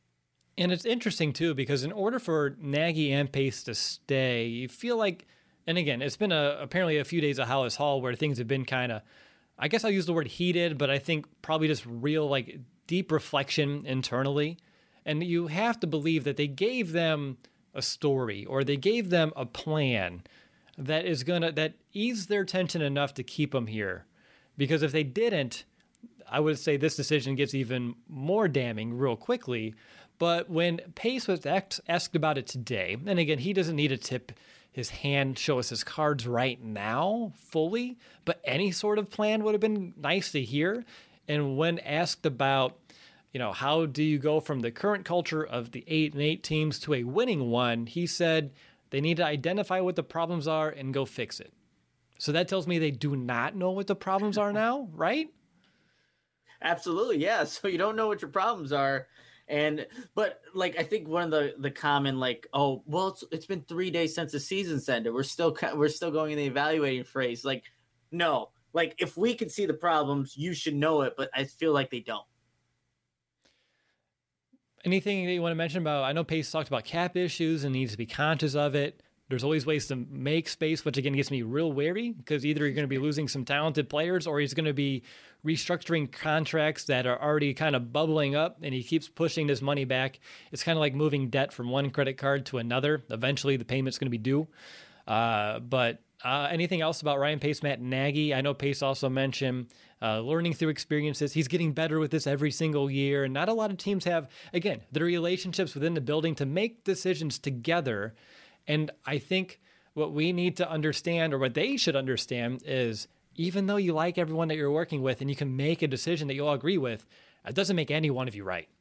Speaker 3: And it's interesting too because in order for Nagy and Pace to stay, you feel like, and again, it's been a apparently a few days of Hallis Hall where things have been kind of, I guess I'll use the word heated, but I think probably just real like deep reflection internally. And you have to believe that they gave them a story or they gave them a plan that is going to, that ease their tension enough to keep them here. Because if they didn't, I would say this decision gets even more damning real quickly. But when Pace was asked about it today, and again, he doesn't need to tip his hand, show us his cards right now fully, but any sort of plan would have been nice to hear. And when asked about, you know, how do you go from the current culture of the eight and eight teams to a winning one? He said they need to identify what the problems are and go fix it. So that tells me they do not know what the problems are now, right?
Speaker 4: Absolutely, yeah. So you don't know what your problems are. And, but like, I think one of the, the common, like, oh, well, it's, it's been three days since the season's ended. We're still, we're still going in the evaluating phase. Like, no, like if we can see the problems, you should know it, but I feel like they don't. Anything that you want to mention about, I know Pace talked about cap issues and needs to be conscious of it.
Speaker 3: There's always ways to make space, which again gets me real wary because either you're going to be losing some talented players or he's going to be restructuring contracts that are already kind of bubbling up and he keeps pushing this money back. It's kind of like moving debt from one credit card to another. Eventually the payment's going to be due. Uh, but uh, anything else about Ryan Pace, Matt Nagy? I know Pace also mentioned uh, learning through experiences. He's getting better with this every single year. And not a lot of teams have, again, the relationships within the building to make decisions together. And I think what we need to understand, or what they should understand, is even though you like everyone that you're working with and you can make a decision that you all agree with, it doesn't make any one of you right.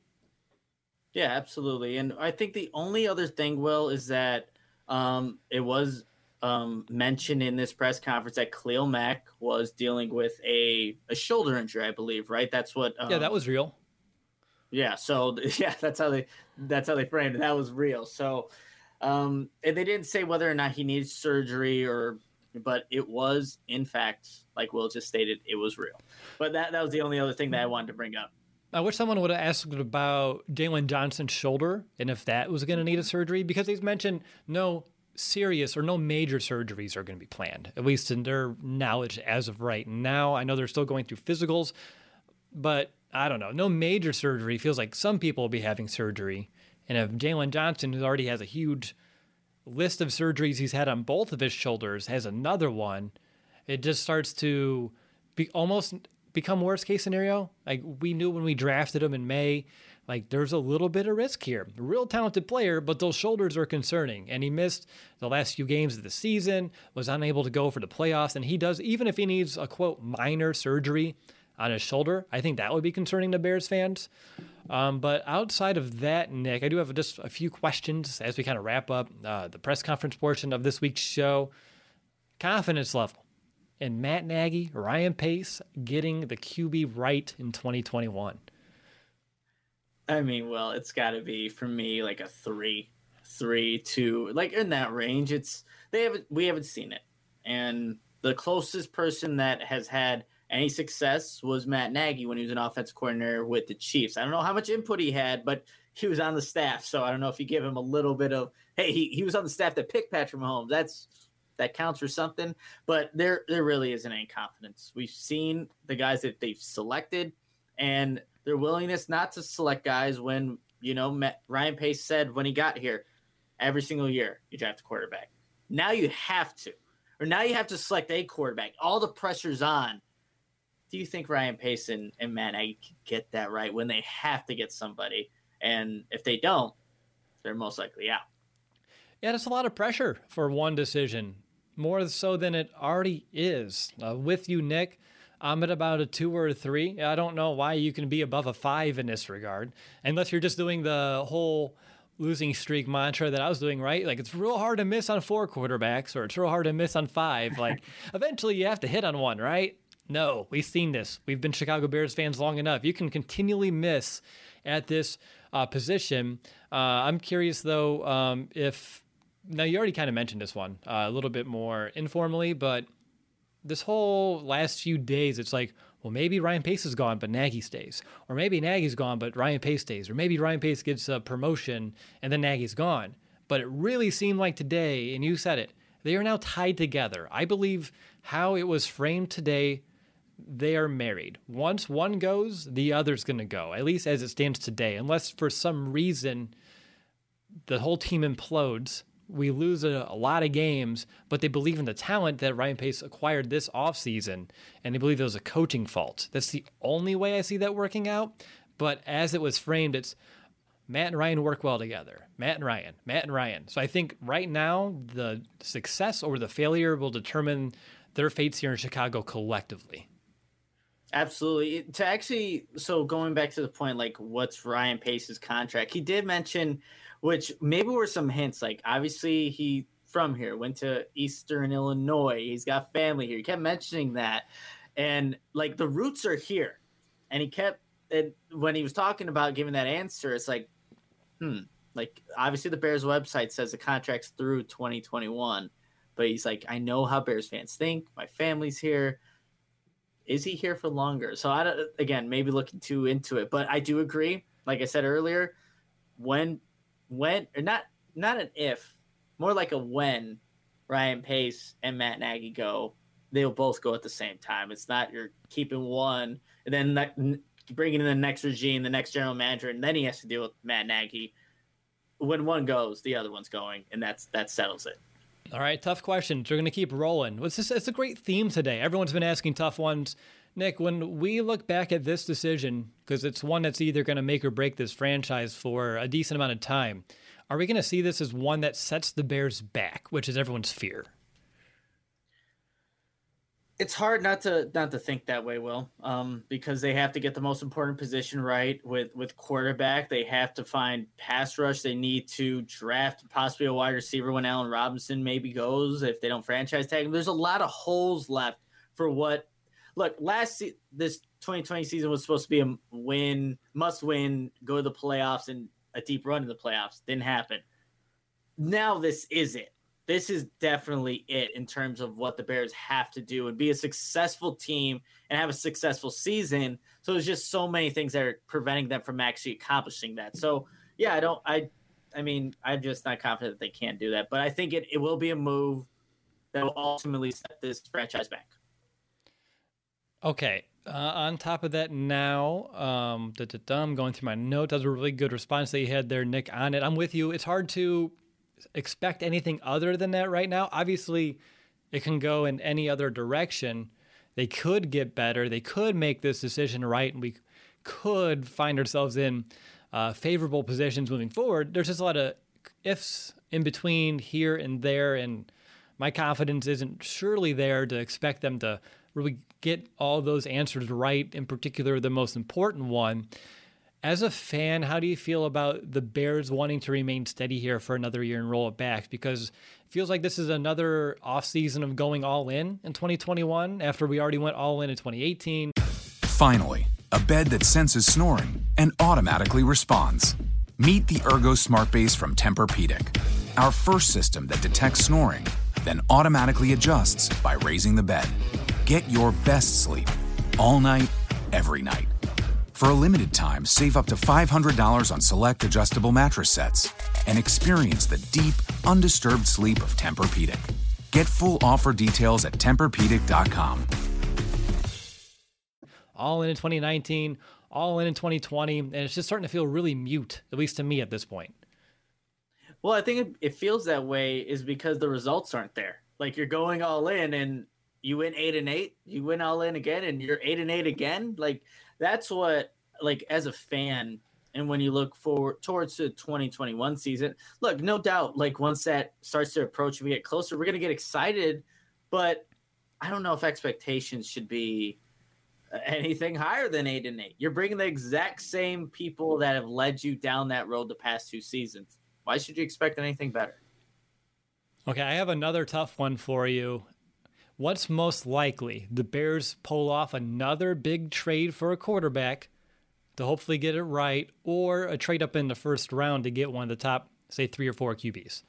Speaker 4: Yeah, absolutely. And I think the only other thing, Will, is that um, it was um, mentioned in this press conference that Khalil Mack was dealing with a, a shoulder injury, I believe, right? That's what. Um,
Speaker 3: yeah, that was real.
Speaker 4: Yeah. So yeah, that's how they that's how they framed it. That was real. So. Um, and they didn't say whether or not he needs surgery or, but it was, in fact, like Will just stated, it was real. But that, that was the only other thing that I wanted to bring up.
Speaker 3: I wish someone would have asked about Jalen Johnson's shoulder and if that was going to need a surgery, because he's mentioned no serious or no major surgeries are going to be planned, at least in their knowledge as of right now. I know they're still going through physicals, but I don't know. No major surgery. Feels like some people will be having surgery. And if Jalen Johnson, who already has a huge list of surgeries he's had on both of his shoulders, has another one, it just starts to be almost become worst case scenario. Like we knew when we drafted him in May, like there's a little bit of risk here. A real talented player, but those shoulders are concerning. And he missed the last few games of the season, was unable to go for the playoffs. And he does, even if he needs a quote minor surgery on his shoulder, I think that would be concerning to Bears fans. Um, but outside of that, Nick, I do have just a few questions as we kind of wrap up uh, the press conference portion of this week's show. Confidence level in Matt Nagy, Ryan Pace getting the Q B right in twenty twenty-one.
Speaker 4: I mean, well, it's got to be for me like a three, three, two, like in that range. It's they haven't we haven't seen it, and the closest person that has had any success was Matt Nagy when he was an offensive coordinator with the Chiefs. I don't know how much input he had, but he was on the staff. So I don't know if you give him a little bit of, hey, he, he was on the staff that picked Patrick Mahomes. That's that counts for something. But there there really isn't any confidence. We've seen the guys that they've selected and their willingness not to select guys when, you know, Matt, Ryan Pace said when he got here, every single year you draft a quarterback. Now you have to. Or now you have to select a quarterback. All the pressure's on. Do you think Ryan Pace and, and Matt Nagy can get that right when they have to get somebody? And if they don't, they're most likely out.
Speaker 3: Yeah, that's a lot of pressure for one decision, more so than it already is. Uh, with you, Nick, I'm at about a two or a three. I don't know why you can be above a five in this regard, unless you're just doing the whole losing streak mantra that I was doing, right? Like it's real hard to miss on four quarterbacks, or it's real hard to miss on five. Like eventually you have to hit on one, right? No, we've seen this. We've been Chicago Bears fans long enough. You can continually miss at this uh, position. Uh, I'm curious, though, um, if – now, you already kind of mentioned this one uh, a little bit more informally, but this whole last few days, it's like, well, maybe Ryan Pace is gone, but Nagy stays. Or maybe Nagy's gone, but Ryan Pace stays. Or maybe Ryan Pace gets a promotion and then Nagy's gone. But it really seemed like today, and you said it, they are now tied together. I believe how it was framed today – they are married. Once one goes, the other's going to go, at least as it stands today. Unless for some reason the whole team implodes, we lose a, a lot of games, but they believe in the talent that Ryan Pace acquired this offseason, and they believe it was a coaching fault. That's the only way I see that working out. But as it was framed, it's Matt and Ryan work well together. Matt and Ryan, Matt and Ryan. So I think right now the success or the failure will determine their fates here in Chicago collectively.
Speaker 4: Absolutely. To actually, so going back to the point, like what's Ryan Pace's contract? He did mention, which maybe were some hints, like obviously he from here, went to Eastern Illinois. He's got family here. He kept mentioning that. And like the roots are here. And he kept, and when he was talking about giving that answer, it's like, hmm, like obviously the Bears website says the contract's through twenty twenty-one. But he's like, I know how Bears fans think. My family's here. Is he here for longer? So I don't, again, maybe looking too into it, but I do agree. Like I said earlier, when, when, or not, not an if, more like a when Ryan Pace and Matt Nagy go, they'll both go at the same time. It's not you're keeping one and then that, bringing in the next regime, the next general manager, and then he has to deal with Matt Nagy. When one goes, the other one's going, and that's that settles it.
Speaker 3: All right, tough questions. We're going to keep rolling. It's, just, it's a great theme today. Everyone's been asking tough ones. Nick, when we look back at this decision, because it's one that's either going to make or break this franchise for a decent amount of time, are we going to see this as one that sets the Bears back, which is everyone's fear?
Speaker 4: It's hard not to not to think that way, Will, um, because they have to get the most important position right with, with quarterback. They have to find pass rush. They need to draft possibly a wide receiver when Allen Robinson maybe goes, if they don't franchise tag him. There's a lot of holes left for what – look, last se- this twenty twenty season was supposed to be a win, must win, go to the playoffs, and a deep run in the playoffs. Didn't happen. Now this is it. This is definitely it in terms of what the Bears have to do and be a successful team and have a successful season. So there's just so many things that are preventing them from actually accomplishing that. So yeah, I don't, I, I mean, I'm just not confident that they can't do that, but I think it, it will be a move that will ultimately set this franchise back.
Speaker 3: Okay. Uh, on top of that now, um, da, da, da, I'm going through my note. That was a really good response that you had there, Nick, on it. I'm with you. It's hard to expect anything other than that right now. Obviously, it can go in any other direction. They could get better. They could make this decision right, and we could find ourselves in uh, favorable positions moving forward. There's just a lot of ifs in between here and there, and my confidence isn't surely there to expect them to really get all those answers right, in particular the most important one. As a fan, how do you feel about the Bears wanting to remain steady here for another year and roll it back? Because it feels like this is another offseason of going all in in twenty twenty-one after we already went all in in twenty eighteen.
Speaker 10: Finally, a bed that senses snoring and automatically responds. Meet the Ergo Smart Base from Tempur-Pedic, our first system that detects snoring, then automatically adjusts by raising the bed. Get your best sleep all night, every night. For a limited time, save up to five hundred dollars on select adjustable mattress sets and experience the deep, undisturbed sleep of Tempur-Pedic. Get full offer details at Tempur Pedic dot com.
Speaker 3: All in in twenty nineteen, all in in twenty twenty, and it's just starting to feel really mute, at least to me at this point.
Speaker 4: Well, I think it, it feels that way is because the results aren't there. Like you're going all in and you win eight and eight, you win all in again, and you're eight and eight again. Like that's what, like as a fan, and when you look forward towards the twenty twenty-one season, look, no doubt, like once that starts to approach and we get closer, we're going to get excited, but I don't know if expectations should be anything higher than eight and eight. You're bringing the exact same people that have led you down that road the past two seasons. Why should you expect anything better?
Speaker 3: Okay, I have another tough one for you. What's most likely? The Bears pull off another big trade for a quarterback to hopefully get it right, or a trade up in the first round to get one of the top, say, three or four Q Bs?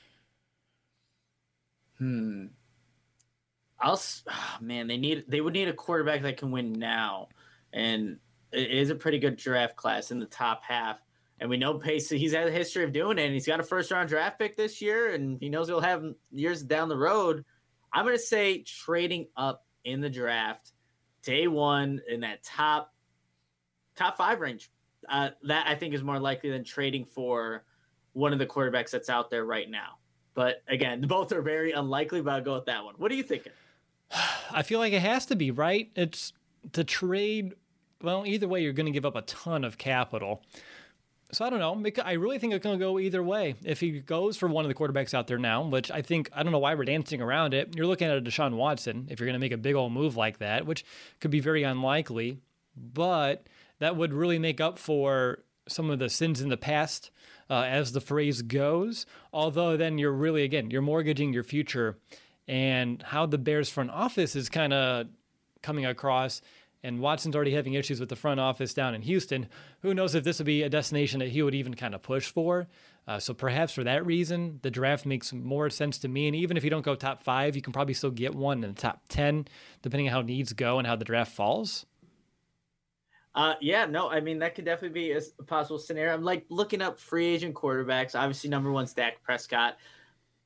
Speaker 4: Hmm. I'll. Oh, man, they need. They would need a quarterback that can win now, and it is a pretty good draft class in the top half. And we know Pace. He's had a history of doing it, and he's got a first round draft pick this year, and he knows he'll have years down the road. I'm going to say trading up in the draft, day one in that top top five range. Uh, that I think is more likely than trading for one of the quarterbacks that's out there right now. But again, both are very unlikely, but I'll go with that one. What are you thinking?
Speaker 3: I feel like it has to be, right? It's to trade. Well, either way, you're going to give up a ton of capital. So I don't know. I really think it's going to go either way. If he goes for one of the quarterbacks out there now, which I think, I don't know why we're dancing around it. You're looking at a Deshaun Watson if you're going to make a big old move like that, which could be very unlikely. But that would really make up for some of the sins in the past, uh, as the phrase goes. Although then you're really, again, you're mortgaging your future. And how the Bears front office is kind of coming across, and Watson's already having issues with the front office down in Houston. Who knows if this would be a destination that he would even kind of push for. Uh, so perhaps for that reason, the draft makes more sense to me. And even if you don't go top five, you can probably still get one in the top ten, depending on how needs go and how the draft falls.
Speaker 4: Uh, yeah, no, I mean, that could definitely be a possible scenario. I'm like looking up free agent quarterbacks. Obviously, number one's Dak Prescott.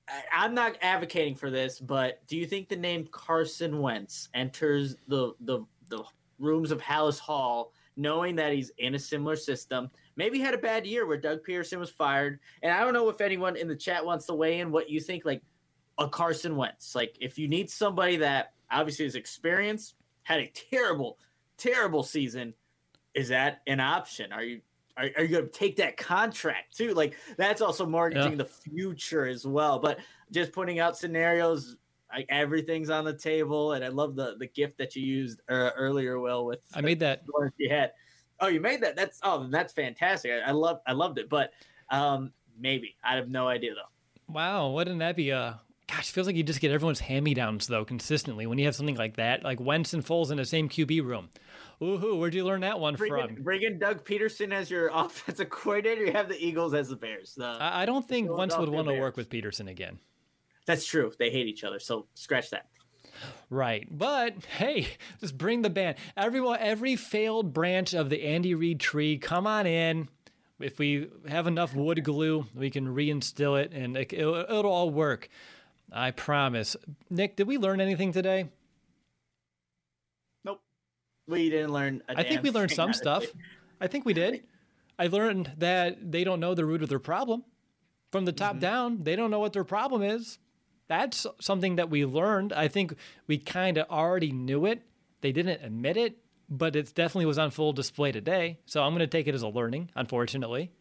Speaker 4: I'm not advocating for this, but do you think the name Carson Wentz enters the the the rooms of Halas Hall, knowing that he's in a similar system? Maybe he had a bad year where Doug Peterson was fired, and I don't know if anyone in the chat wants to weigh in what you think. Like a Carson Wentz, like if you need somebody that obviously is experienced, had a terrible, terrible season, is that an option? Are you Are, are you going to take that contract too? Like that's also mortgaging yeah. the future as well. But just putting out scenarios, like everything's on the table. And I love the the gift that you used uh, earlier, Will. With
Speaker 3: I made that.
Speaker 4: You had. Oh, you made that. That's oh, that's fantastic. I, I love I loved it. But um, maybe I have no idea though.
Speaker 3: Wow, wouldn't that be a? Gosh, feels like you just get everyone's hand-me-downs though consistently when you have something like that, like Wentz and Foles in the same Q B room. Woohoo! Where'd you learn that one
Speaker 4: bring
Speaker 3: from?
Speaker 4: In, bring in Doug Peterson as your offensive coordinator. You have the Eagles as the Bears. The,
Speaker 3: I, I don't think Wentz would want to work with Peterson again.
Speaker 4: That's true. They hate each other, so scratch that.
Speaker 3: Right, but hey, just bring the band. Everyone, every failed branch of the Andy Reid tree, come on in. If we have enough wood glue, we can reinstill it, and it, it'll, it'll all work. I promise. Nick, did we learn anything today?
Speaker 4: Nope. We didn't learn a
Speaker 3: I think we learned some stuff. I think we did. I learned that they don't know the root of their problem. From the top mm-hmm. down, they don't know what their problem is. That's something that we learned. I think we kind of already knew it. They didn't admit it, but it definitely was on full display today. So I'm going to take it as a learning, unfortunately.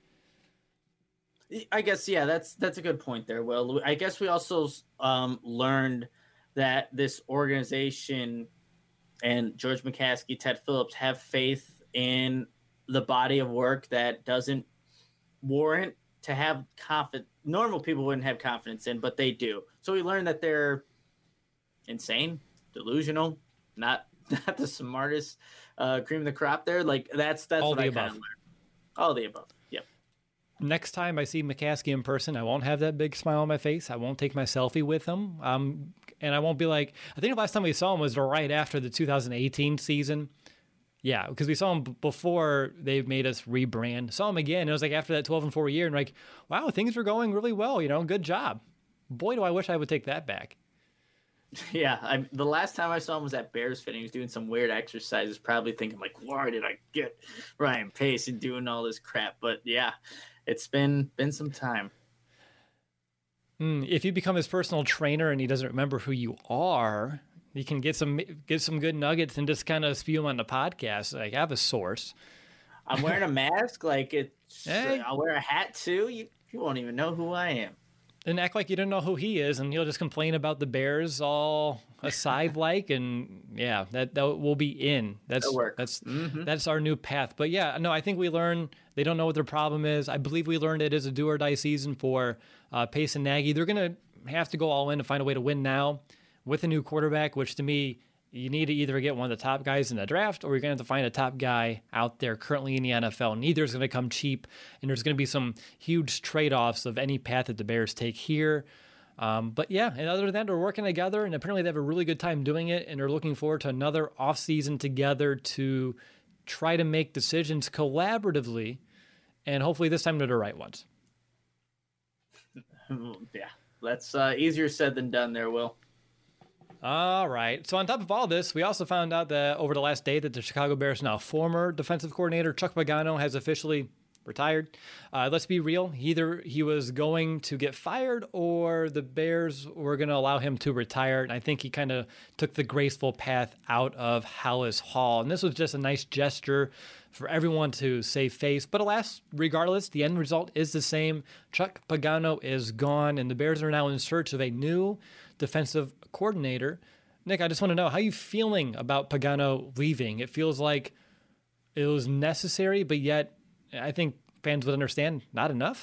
Speaker 4: I guess, yeah, that's that's a good point there, Will. I guess we also um, learned that this organization and George McCaskey, Ted Phillips have faith in the body of work that doesn't warrant to have confidence. Normal people wouldn't have confidence in, but they do. So we learned that they're insane, delusional, not not the smartest uh, cream of the crop there. Like that's that's
Speaker 3: all
Speaker 4: what
Speaker 3: the
Speaker 4: I
Speaker 3: above.
Speaker 4: kind of learned. All the above. Yep.
Speaker 3: Next time I see McCaskey in person, I won't have that big smile on my face. I won't take my selfie with him. Um, and I won't be like, I think the last time we saw him was right after the two thousand eighteen season. Yeah, because we saw him b- before they made us rebrand. Saw him again. It was like after that twelve and four year, and like, wow, things were going really well. You know, good job. Boy, do I wish I would take that back.
Speaker 4: Yeah, I, the last time I saw him was at Bears Fit. He was doing some weird exercises, probably thinking like, why did I get Ryan Pace and doing all this crap? But yeah, it's been been some time.
Speaker 3: Mm, if you become his personal trainer and he doesn't remember who you are, you can get some get some good nuggets and just kind of spew them on the podcast. Like, have a source.
Speaker 4: I'm wearing a mask. Like it's,
Speaker 3: hey.
Speaker 4: I'll wear a hat too. You you won't even know who I am.
Speaker 3: And act like you don't know who he is, and he'll just complain about the Bears all aside like, and yeah, that that will be in. That's that's mm-hmm. that's our new path. But yeah, no, I think we learned they don't know what their problem is. I believe we learned it is a do or die season for uh, Pace and Nagy. They're gonna have to go all in to find a way to win now with a new quarterback, which to me, you need to either get one of the top guys in the draft or you're going to have to find a top guy out there currently in the N F L. Neither is going to come cheap, and there's going to be some huge trade-offs of any path that the Bears take here. Um, but yeah, and other than that, they're working together, and apparently they have a really good time doing it, and they're looking forward to another offseason together to try to make decisions collaboratively, and hopefully this time they're the right ones.
Speaker 4: Yeah, that's uh, easier said than done there, Will.
Speaker 3: All right. So on top of all this, we also found out that over the last day that the Chicago Bears now former defensive coordinator Chuck Pagano has officially retired. Uh, let's be real. Either he was going to get fired or the Bears were going to allow him to retire. And I think he kind of took the graceful path out of Halas Hall. And this was just a nice gesture for everyone to save face. But alas, regardless, the end result is the same. Chuck Pagano is gone, and the Bears are now in search of a new defensive coordinator. Nick, I just want to know, how are you feeling about Pagano leaving? It feels like it was necessary, but yet I think fans would understand not enough.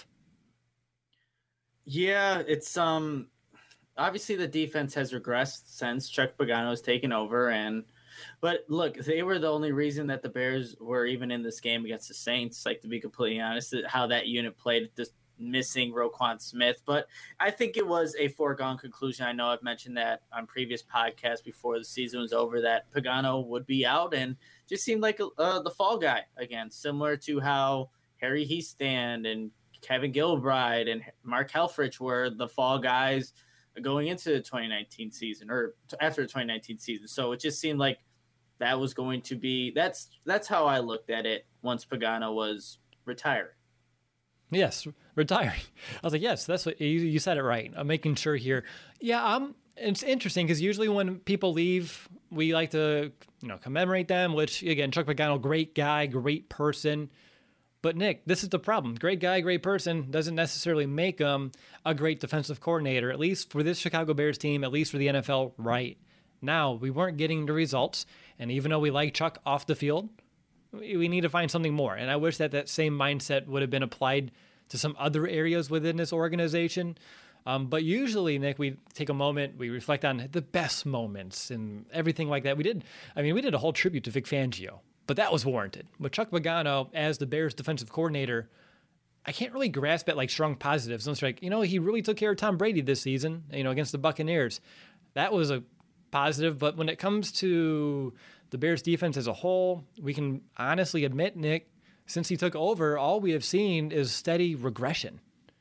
Speaker 4: Yeah, it's um obviously the defense has regressed since Chuck Pagano has taken over, and but look, they were the only reason that the Bears were even in this game against the Saints. Like, to be completely honest, how that unit played, just missing Roquan Smith. But I think it was a foregone conclusion. I know I've mentioned that on previous podcasts before the season was over that Pagano would be out, and just seemed like uh, the fall guy again, similar to how Harry Hiestand and Kevin Gilbride and Mark Helfrich were the fall guys going into the twenty nineteen season or after the twenty nineteen season. So it just seemed like that was going to be, that's, that's how I looked at it once Pagano was retired.
Speaker 3: Yes, retiring. I was like, yes, that's what you, you said it right. I'm making sure here. Yeah, I'm, it's interesting because usually when people leave, we like to, you know, commemorate them, which again, Chuck Pagano, great guy, great person. But Nick, this is the problem. Great guy, great person doesn't necessarily make him a great defensive coordinator, at least for this Chicago Bears team, at least for the N F L right now. We weren't getting the results. And even though we like Chuck off the field, we need to find something more. And I wish that that same mindset would have been applied to some other areas within this organization. Um, but usually, Nick, we take a moment, we reflect on the best moments and everything like that. We did, I mean, we did a whole tribute to Vic Fangio, but that was warranted. With Chuck Pagano as the Bears defensive coordinator, I can't really grasp at like strong positives. It's like, you know, he really took care of Tom Brady this season, you know, against the Buccaneers. That was a positive. But when it comes to the Bears defense as a whole, we can honestly admit, Nick, since he took over, all we have seen is steady regression.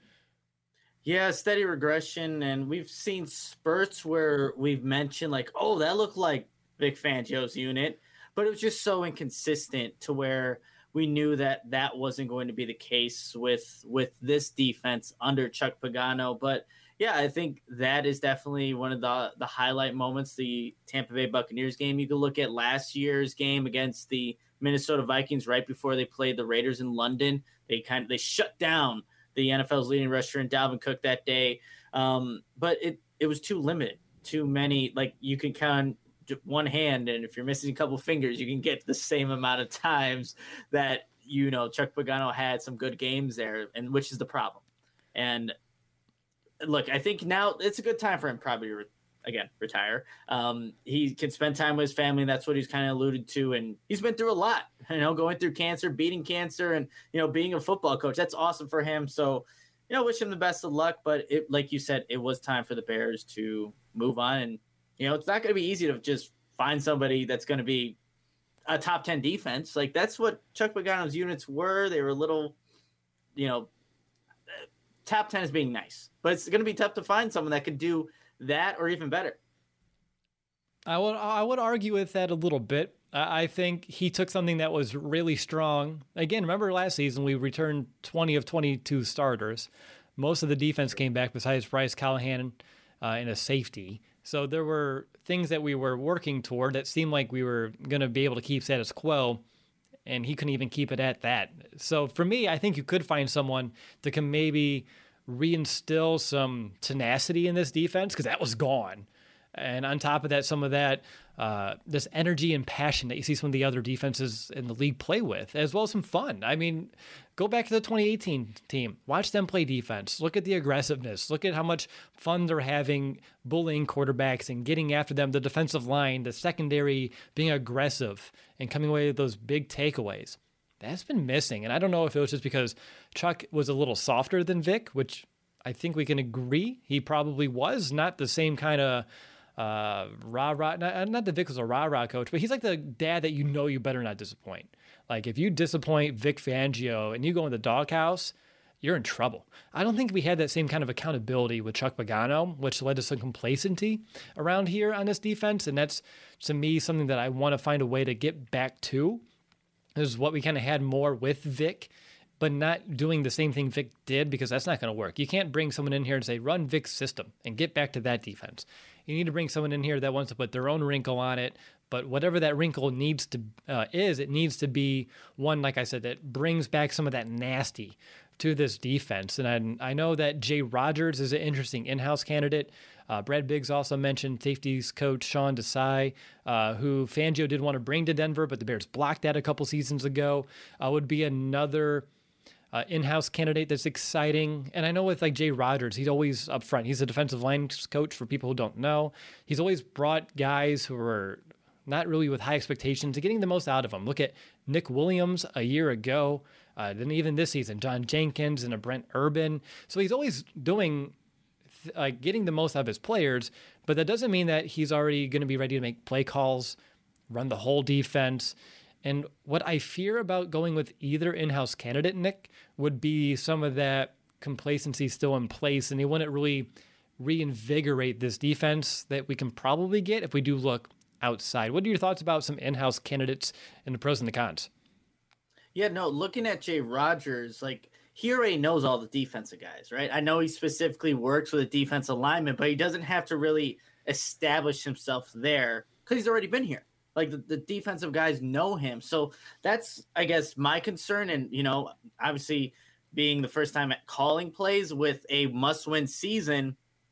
Speaker 4: Yeah, steady regression. And we've seen spurts where we've mentioned like, oh, that looked like Vic Fangio's unit, but it was just so inconsistent to where we knew that that wasn't going to be the case with, with this defense under Chuck Pagano. But yeah, I think that is definitely one of the, the highlight moments, the Tampa Bay Buccaneers game. You can look at last year's game against the Minnesota Vikings right before they played the Raiders in London. They kind of, they shut down the N F L's leading rusher in Dalvin Cook that day. Um, but it, it was too limited, too many, like you can count one hand. And if you're missing a couple fingers, you can get the same amount of times that, you know, Chuck Pagano had some good games there, and which is the problem. And look, I think now it's a good time for him probably to, again, retire. Um, he can spend time with his family, and that's what he's kind of alluded to. And he's been through a lot, you know, going through cancer, beating cancer, and, you know, being a football coach. That's awesome for him. So, you know, wish him the best of luck. But it, like you said, it was time for the Bears to move on. And, you know, it's not going to be easy to just find somebody that's going to be a top ten defense. Like, that's what Chuck Pagano's units were. They were a little, you know, top ten is being nice, but it's going to be tough to find someone that could do that or even better.
Speaker 3: I would I would argue with that a little bit. I think he took something that was really strong. Again, remember last season we returned twenty of twenty-two starters. Most of the defense came back besides Bryce Callahan uh, in a safety. So there were things that we were working toward that seemed like we were going to be able to keep status quo, and he couldn't even keep it at that. So for me, I think you could find someone that can maybe reinstill some tenacity in this defense, because that was gone. And on top of that, some of that, uh, this energy and passion that you see some of the other defenses in the league play with, as well as some fun. I mean, go back to the twenty eighteen team. Watch them play defense. Look at the aggressiveness. Look at how much fun they're having bullying quarterbacks and getting after them, the defensive line, the secondary being aggressive and coming away with those big takeaways. That's been missing. And I don't know if it was just because Chuck was a little softer than Vic, which I think we can agree he probably was. Not the same kind of uh, rah-rah. Not, not that Vic was a rah-rah coach, but he's like the dad that you know you better not disappoint. Like, if you disappoint Vic Fangio and you go in the doghouse, you're in trouble. I don't think we had that same kind of accountability with Chuck Pagano, which led to some complacency around here on this defense. And that's, to me, something that I want to find a way to get back to. This is what we kind of had more with Vic, but not doing the same thing Vic did, because that's not going to work. You can't bring someone in here and say, run Vic's system and get back to that defense. You need to bring someone in here that wants to put their own wrinkle on it. But whatever that wrinkle needs to uh, is, it needs to be one, like I said, that brings back some of that nasty to this defense. And I, I know that Jay Rodgers is an interesting in-house candidate. Uh, Brad Biggs also mentioned safeties coach Sean Desai, uh, who Fangio did want to bring to Denver, but the Bears blocked that a couple seasons ago. Uh, would be another uh, in-house candidate that's exciting. And I know with like Jay Rodgers, he's always up front. He's a defensive line coach for people who don't know. He's always brought guys who are not really with high expectations to getting the most out of them. Look at Nick Williams a year ago. Uh, then even this season, John Jenkins and a Brent Urban. So he's always doing, uh, getting the most out of his players, but that doesn't mean that he's already going to be ready to make play calls, run the whole defense, And what I fear about going with either in-house candidate, Nick, would be some of that complacency still in place, and they wouldn't really reinvigorate this defense that we can probably get if we do look outside. What are your thoughts about some in-house candidates and the pros and the cons?
Speaker 4: Yeah, no, looking at Jay Rodgers, like, he already knows all the defensive guys, right? I know he specifically works with a defensive lineman, but he doesn't have to really establish himself there because he's already been here. Like, the, the defensive guys know him. So that's, I guess, my concern. And, you know, obviously being the first time at calling plays with a must-win season,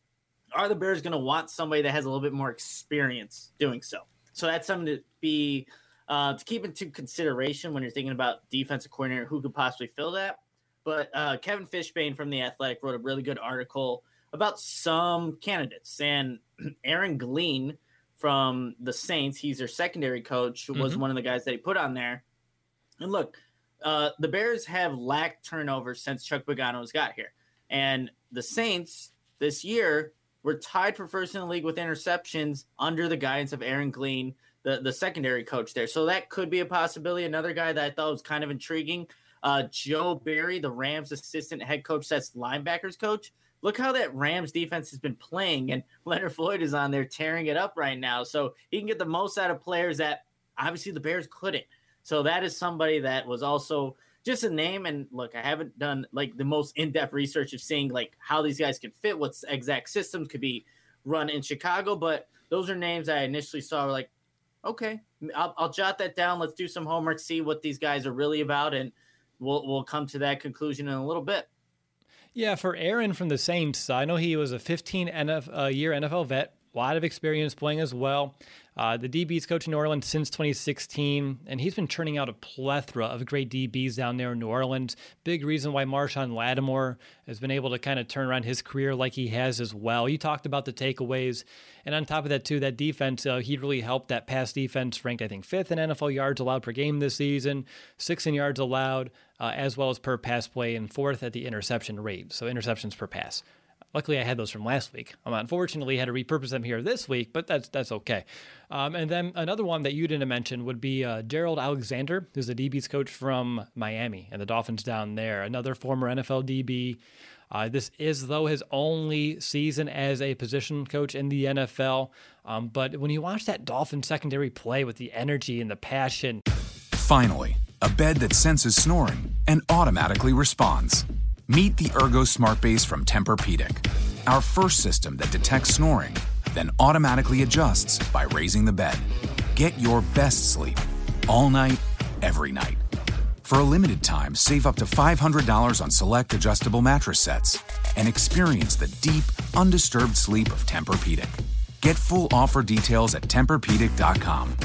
Speaker 4: are the Bears going to want somebody that has a little bit more experience doing so? So that's something to be uh, to keep into consideration when you're thinking about defensive coordinator who could possibly fill that. But uh, Kevin Fishbane from The Athletic wrote a really good article about some candidates. And Aaron Glean from the Saints, he's their secondary coach, was mm-hmm. one of the guys that he put on there. And look, uh, the Bears have lacked turnovers since Chuck Pagano's got here. And the Saints this year were tied for first in the league with interceptions under the guidance of Aaron Glean, the, the secondary coach there. So that could be a possibility. Another guy that I thought was kind of intriguing, Uh, Joe Barry, the Rams assistant head coach, that's linebackers coach. Look how that Rams defense has been playing, and Leonard Floyd is on there tearing it up right now. So he can get the most out of players that obviously the Bears couldn't. So that is somebody that was also just a name. And look, I haven't done like the most in-depth research of seeing like how these guys can fit, what exact systems could be run in Chicago. But those are names I initially saw were like, okay, I'll, I'll jot that down. Let's do some homework, see what these guys are really about, and We'll we'll come to that conclusion in a little bit.
Speaker 3: Yeah, for Aaron from the Saints, I know he was a fifteen-year N F L vet, a lot of experience playing as well. Uh, the D B's coach in New Orleans since twenty sixteen, and he's been churning out a plethora of great D Bs down there in New Orleans. Big reason why Marshawn Lattimore has been able to kind of turn around his career like he has as well. You talked about the takeaways, and on top of that, too, that defense, uh, he really helped that pass defense, ranked, I think, fifth in N F L yards allowed per game this season, sixth in yards allowed, uh, as well as per pass play, and fourth at the interception rate, so interceptions per pass. Luckily, I had those from last week. Um, unfortunately, I had to repurpose them here this week, but that's that's okay. Um, and then another one that you didn't mention would be uh, Gerald Alexander, who's the D B's coach from Miami and the Dolphins down there. Another former N F L D B. Uh, this is, though, his only season as a position coach in the N F L. Um, but when you watch that Dolphins secondary play with the energy and the passion.
Speaker 10: Finally, a bed that senses snoring and automatically responds. Meet the Ergo Smart Base from Tempur-Pedic, our first system that detects snoring, then automatically adjusts by raising the bed. Get your best sleep all night, every night. For a limited time, save up to five hundred dollars on select adjustable mattress sets and experience the deep, undisturbed sleep of Tempur-Pedic. Get full offer details at Tempur Pedic dot com.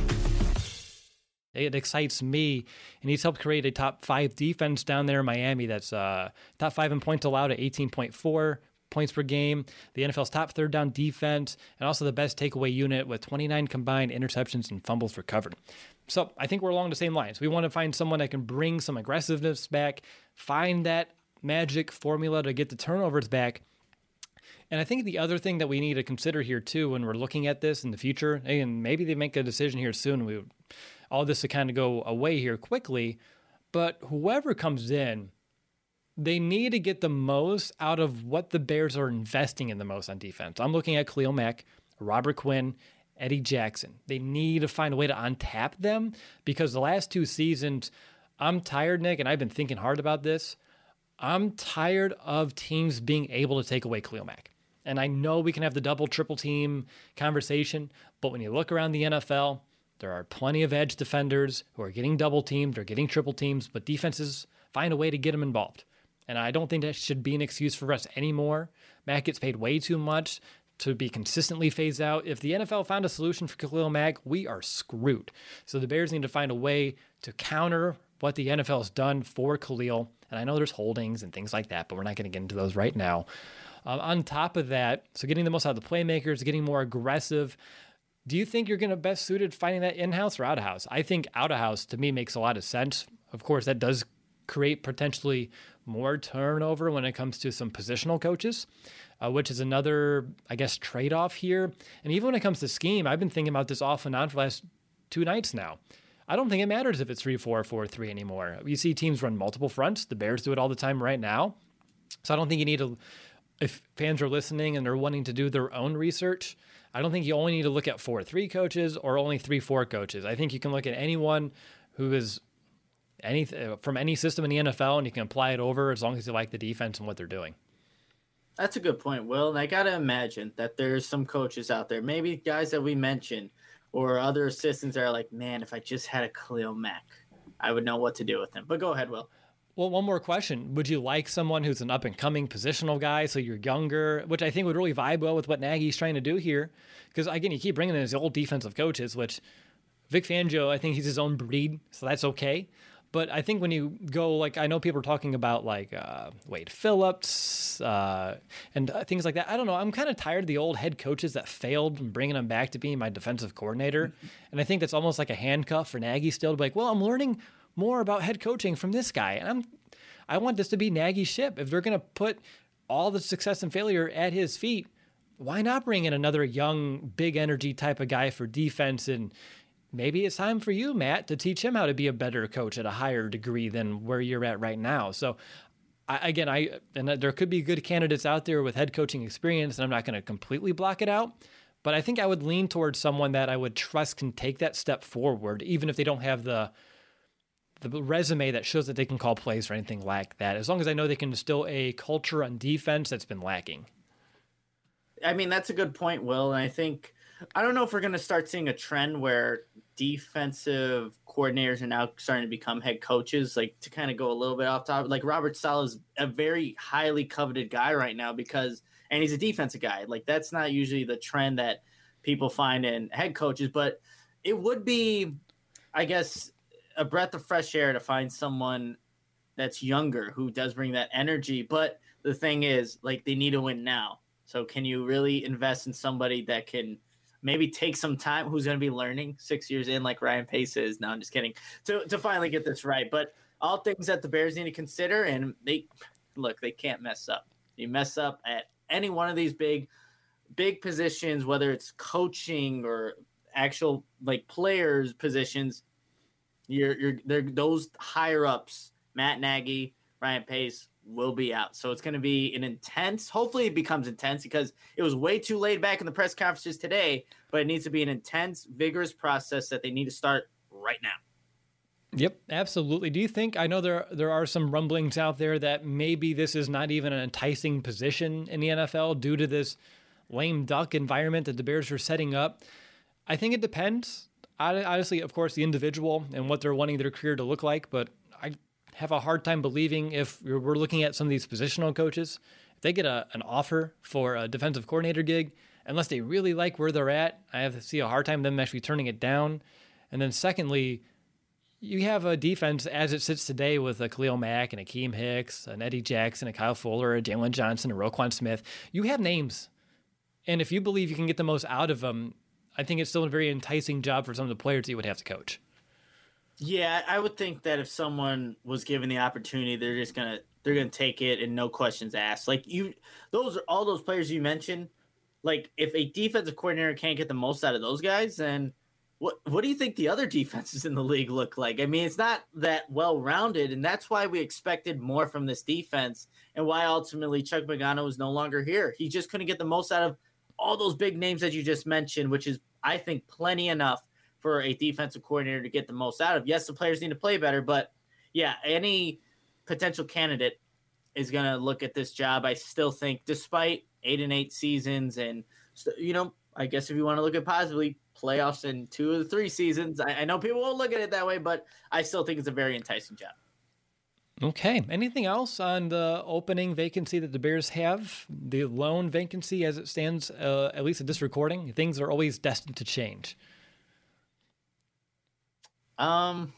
Speaker 3: It excites me, and he's helped create a top five defense down there in Miami that's uh, top five in points allowed at eighteen point four points per game, the N F L's top third down defense, and also the best takeaway unit with twenty-nine combined interceptions and fumbles recovered. So I think we're along the same lines. We want to find someone that can bring some aggressiveness back, find that magic formula to get the turnovers back. And I think the other thing that we need to consider here, too, when we're looking at this in the future, and maybe they make a decision here soon, we would, all this to kind of go away here quickly, but whoever comes in, they need to get the most out of what the Bears are investing in the most on defense. I'm looking at Khalil Mack, Robert Quinn, Eddie Jackson. They need to find a way to untap them because the last two seasons, I'm tired, Nick, and I've been thinking hard about this. I'm tired of teams being able to take away Khalil Mack. And I know we can have the double, triple team conversation, but when you look around the N F L, there are plenty of edge defenders who are getting double teamed or getting triple teams, but defenses find a way to get them involved. And I don't think that should be an excuse for us anymore. Mack gets paid way too much to be consistently phased out. If the N F L found a solution for Khalil Mack, we are screwed. So the Bears need to find a way to counter what the N F L has done for Khalil. And I know there's holdings and things like that, but we're not going to get into those right now. Um, on top of that, so getting the most out of the playmakers, getting more aggressive. Do you think you're going to best suited finding that in-house or out-of-house? I think out-of-house, to me, makes a lot of sense. Of course, that does create potentially more turnover when it comes to some positional coaches, uh, which is another, I guess, trade-off here. And even when it comes to scheme, I've been thinking about this off and on for the last two nights now. I don't think it matters if it's three four, four three anymore. You see teams run multiple fronts. The Bears do it all the time right now. So I don't think you need to, if fans are listening and they're wanting to do their own research, I don't think you only need to look at four three coaches or only three four coaches. I think you can look at anyone who is any from any system in the N F L, and you can apply it over as long as you like the defense and what they're doing.
Speaker 4: That's a good point, Will. And I got to imagine that there's some coaches out there, maybe guys that we mentioned or other assistants that are like, man, if I just had a Khalil Mack, I would know what to do with him. But go ahead, Will.
Speaker 3: Well, one more question. Would you like someone who's an up-and-coming positional guy, so you're younger, which I think would really vibe well with what Nagy's trying to do here? Because, again, you keep bringing in his old defensive coaches, which Vic Fangio, I think he's his own breed, so that's okay. But I think when you go, like, I know people are talking about, like, uh, Wade Phillips uh, and uh, things like that. I don't know. I'm kind of tired of the old head coaches that failed and bringing them back to being my defensive coordinator. And I think that's almost like a handcuff for Nagy still to be like, well, I'm learning more about head coaching from this guy. And I'm, I want this to be Nagy's ship. If they're going to put all the success and failure at his feet, why not bring in another young, big energy type of guy for defense? And maybe it's time for you, Matt, to teach him how to be a better coach at a higher degree than where you're at right now. So I, again, I, and there could be good candidates out there with head coaching experience, and I'm not going to completely block it out. But I think I would lean towards someone that I would trust can take that step forward, even if they don't have the the resume that shows that they can call plays or anything like that, as long as I know they can instill a culture on defense that's been lacking.
Speaker 4: I mean, that's a good point, Will. And I think, I don't know if we're going to start seeing a trend where defensive coordinators are now starting to become head coaches, like to kind of go a little bit off topic. Like Robert Saleh is a very highly coveted guy right now because, and he's a defensive guy. Like that's not usually the trend that people find in head coaches, but it would be, I guess, a breath of fresh air to find someone that's younger who does bring that energy. But the thing is, like, they need to win now. So can you really invest in somebody that can maybe take some time, who's going to be learning six years in, like Ryan Pace is? No, I'm just kidding. To to finally get this right. But all things that the Bears need to consider, and they look, they can't mess up. You mess up at any one of these big, big positions, whether it's coaching or actual like players positions. You're, you're, they're, those higher ups, Matt Nagy, Ryan Pace, will be out. So it's going to be an intense, hopefully it becomes intense because it was way too laid back in the press conferences today, but it needs to be an intense, vigorous process that they need to start right now.
Speaker 3: Yep, absolutely. Do you think, I know there there are some rumblings out there that maybe this is not even an enticing position in the N F L due to this lame duck environment that the Bears are setting up? I think it depends. Honestly, of course, the individual and what they're wanting their career to look like, but I have a hard time believing if we're looking at some of these positional coaches, if they get a, an offer for a defensive coordinator gig, unless they really like where they're at, I have to see a hard time them actually turning it down. And then secondly, you have a defense as it sits today with a Khalil Mack and Akeem Hicks, an Eddie Jackson, a Kyle Fuller, a Jalen Johnson, a Roquan Smith. You have names. And if you believe you can get the most out of them, I think it's still a very enticing job for some of the players that you would have to coach.
Speaker 4: Yeah, I would think that if someone was given the opportunity, they're just gonna they're gonna take it and no questions asked. Like you, those are all those players you mentioned. Like if a defensive coordinator can't get the most out of those guys, then what what do you think the other defenses in the league look like? I mean, it's not that well rounded, and that's why we expected more from this defense, and why ultimately Chuck Pagano is no longer here. He just couldn't get the most out of all those big names that you just mentioned, which is, I think, plenty enough for a defensive coordinator to get the most out of. Yes, the players need to play better, but yeah, any potential candidate is going to look at this job. I still think, despite eight and eight seasons, and you know, I guess if you want to look at positively, playoffs in two of the three seasons. I, I know people won't look at it that way, but I still think it's a very enticing job.
Speaker 3: Okay. Anything else on the opening vacancy that the Bears have? The lone vacancy as it stands, uh, at least at this recording? Things are always destined to change.
Speaker 4: Um,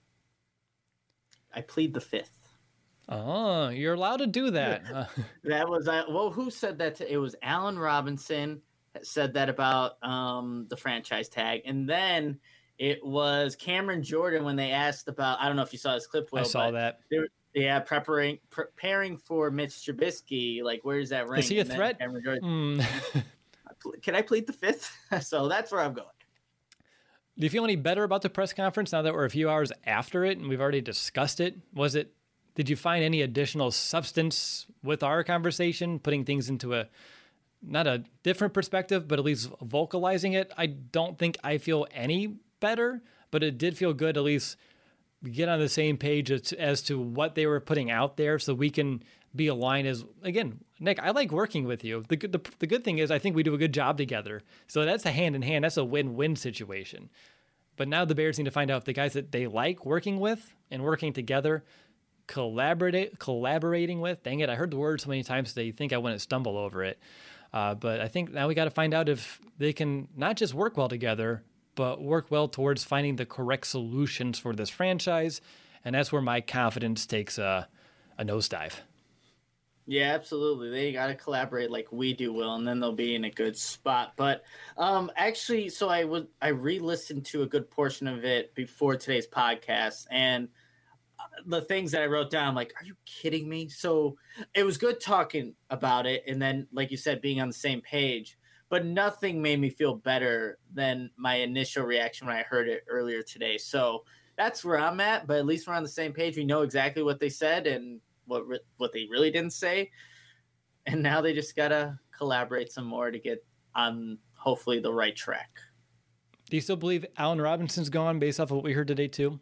Speaker 4: I plead the fifth.
Speaker 3: Oh, you're allowed to do that.
Speaker 4: That was, uh, well, who said that? To, it was Allen Robinson that said that about um, the franchise tag. And then it was Cameron Jordan when they asked about, I don't know if you saw this clip, Will.
Speaker 3: I saw that.
Speaker 4: They were, yeah, preparing preparing for Mitch Trubisky. Like, where's that ring?
Speaker 3: Is he a threat?
Speaker 4: Mm. Can I plead the fifth? So that's where I'm going.
Speaker 3: Do you feel any better about the press conference now that we're a few hours after it and we've already discussed it? Was it, did you find any additional substance with our conversation, putting things into a, not a different perspective, but at least vocalizing it? I don't think I feel any better, but it did feel good at least get on the same page as, as to what they were putting out there so we can be aligned as, again, Nick, I like working with you. The, the, the good thing is I think we do a good job together. So that's a hand in hand. That's a win-win situation. But now the Bears need to find out if the guys that they like working with and working together, collaborate, collaborating with, dang it, I heard the word so many times today, you think I wouldn't stumble over it. Uh, but I think now we got to find out if they can not just work well together, but work well towards finding the correct solutions for this franchise. And that's where my confidence takes a, a nosedive.
Speaker 4: Yeah, absolutely. They got to collaborate like we do, Will, and then they'll be in a good spot. But um, actually, so I was I re-listened to a good portion of it before today's podcast, and the things that I wrote down, I'm like, are you kidding me? So it was good talking about it, and then, like you said, being on the same page. But nothing made me feel better than my initial reaction when I heard it earlier today. So that's where I'm at. But at least we're on the same page. We know exactly what they said and what re- what they really didn't say. And now they just got to collaborate some more to get on hopefully the right track.
Speaker 3: Do you still believe Allen Robinson's gone based off of what we heard today too?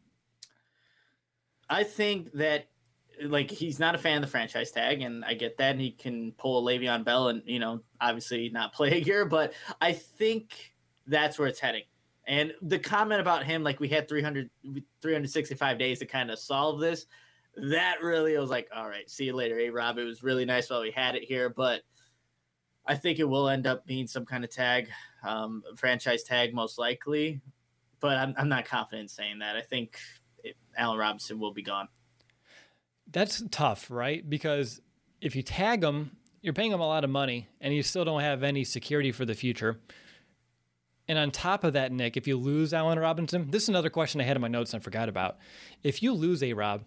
Speaker 4: I think that, like, he's not a fan of the franchise tag, and I get that, and he can pull a Le'Veon Bell and, you know, obviously not play a year, but I think that's where it's heading. And the comment about him, like, we had three hundred, three hundred sixty-five days to kind of solve this, that really was like, all right, see you later, A-Rob. It was really nice while we had it here, but I think it will end up being some kind of tag, um, franchise tag most likely, but I'm, I'm not confident in saying that. I think it, Allen Robinson will be gone.
Speaker 3: That's tough, right? Because if you tag him, you're paying him a lot of money and you still don't have any security for the future. And on top of that, Nick, if you lose Allen Robinson, this is another question I had in my notes and I forgot about. If you lose A-Rob,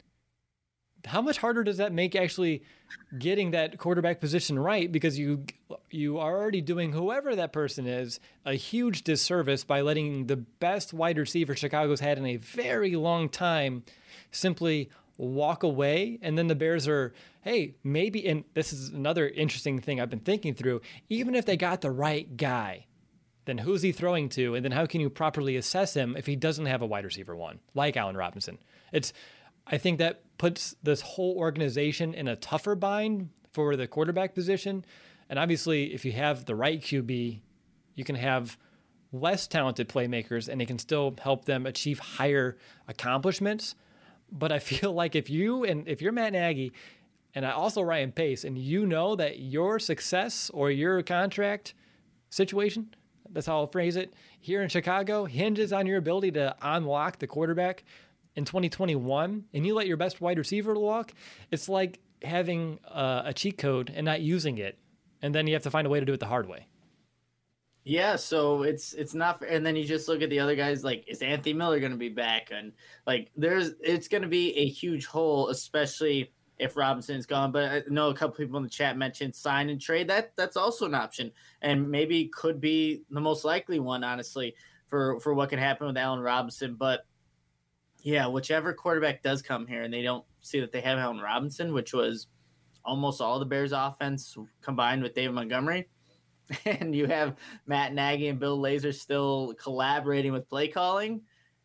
Speaker 3: how much harder does that make actually getting that quarterback position right? Because you you are already doing whoever that person is a huge disservice by letting the best wide receiver Chicago's had in a very long time simply walk away. And then the Bears are, hey, maybe, and this is another interesting thing I've been thinking through, even if they got the right guy, then who's he throwing to? And then how can you properly assess him if he doesn't have a wide receiver one, like Allen Robinson? It's, I think that puts this whole organization in a tougher bind for the quarterback position. And obviously, if you have the right Q B, you can have less talented playmakers and it can still help them achieve higher accomplishments. But I feel like if you, and if you're Matt Nagy, and also Ryan Pace, and you know that your success or your contract situation, that's how I'll phrase it, here in Chicago hinges on your ability to unlock the quarterback in twenty twenty-one, and you let your best wide receiver walk, it's like having a, a cheat code and not using it. And then you have to find a way to do it the hard way.
Speaker 4: Yeah, so it's it's not, and then you just look at the other guys. Like, is Anthony Miller going to be back? And like, there's it's going to be a huge hole, especially if Robinson's gone. But I know a couple people in the chat mentioned sign and trade. That that's also an option, and maybe could be the most likely one, honestly, for for what can happen with Allen Robinson. But yeah, whichever quarterback does come here, and they don't see that they have Allen Robinson, which was almost all the Bears' offense combined with David Montgomery. And you have Matt Nagy and Bill Lazor still collaborating with play calling.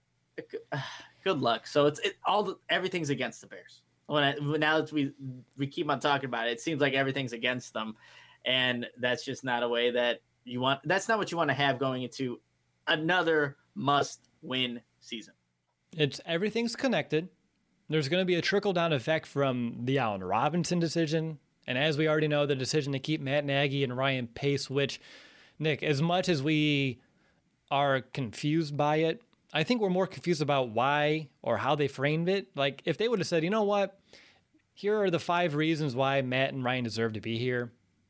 Speaker 4: Good luck. So it's it, all the, everything's against the Bears. When I, now that we we keep on talking about it, it seems like everything's against them, and that's just not a way that you want. That's not what you want to have going into another must-win season.
Speaker 3: It's everything's connected. There's going to be a trickle down effect from the Allen Robinson decision. And as we already know, the decision to keep Matt Nagy and Ryan Pace, which, Nick, as much as we are confused by it, I think we're more confused about why or how they framed it. Like, if they would have said, you know what, here are the five reasons why Matt and Ryan deserve to be here,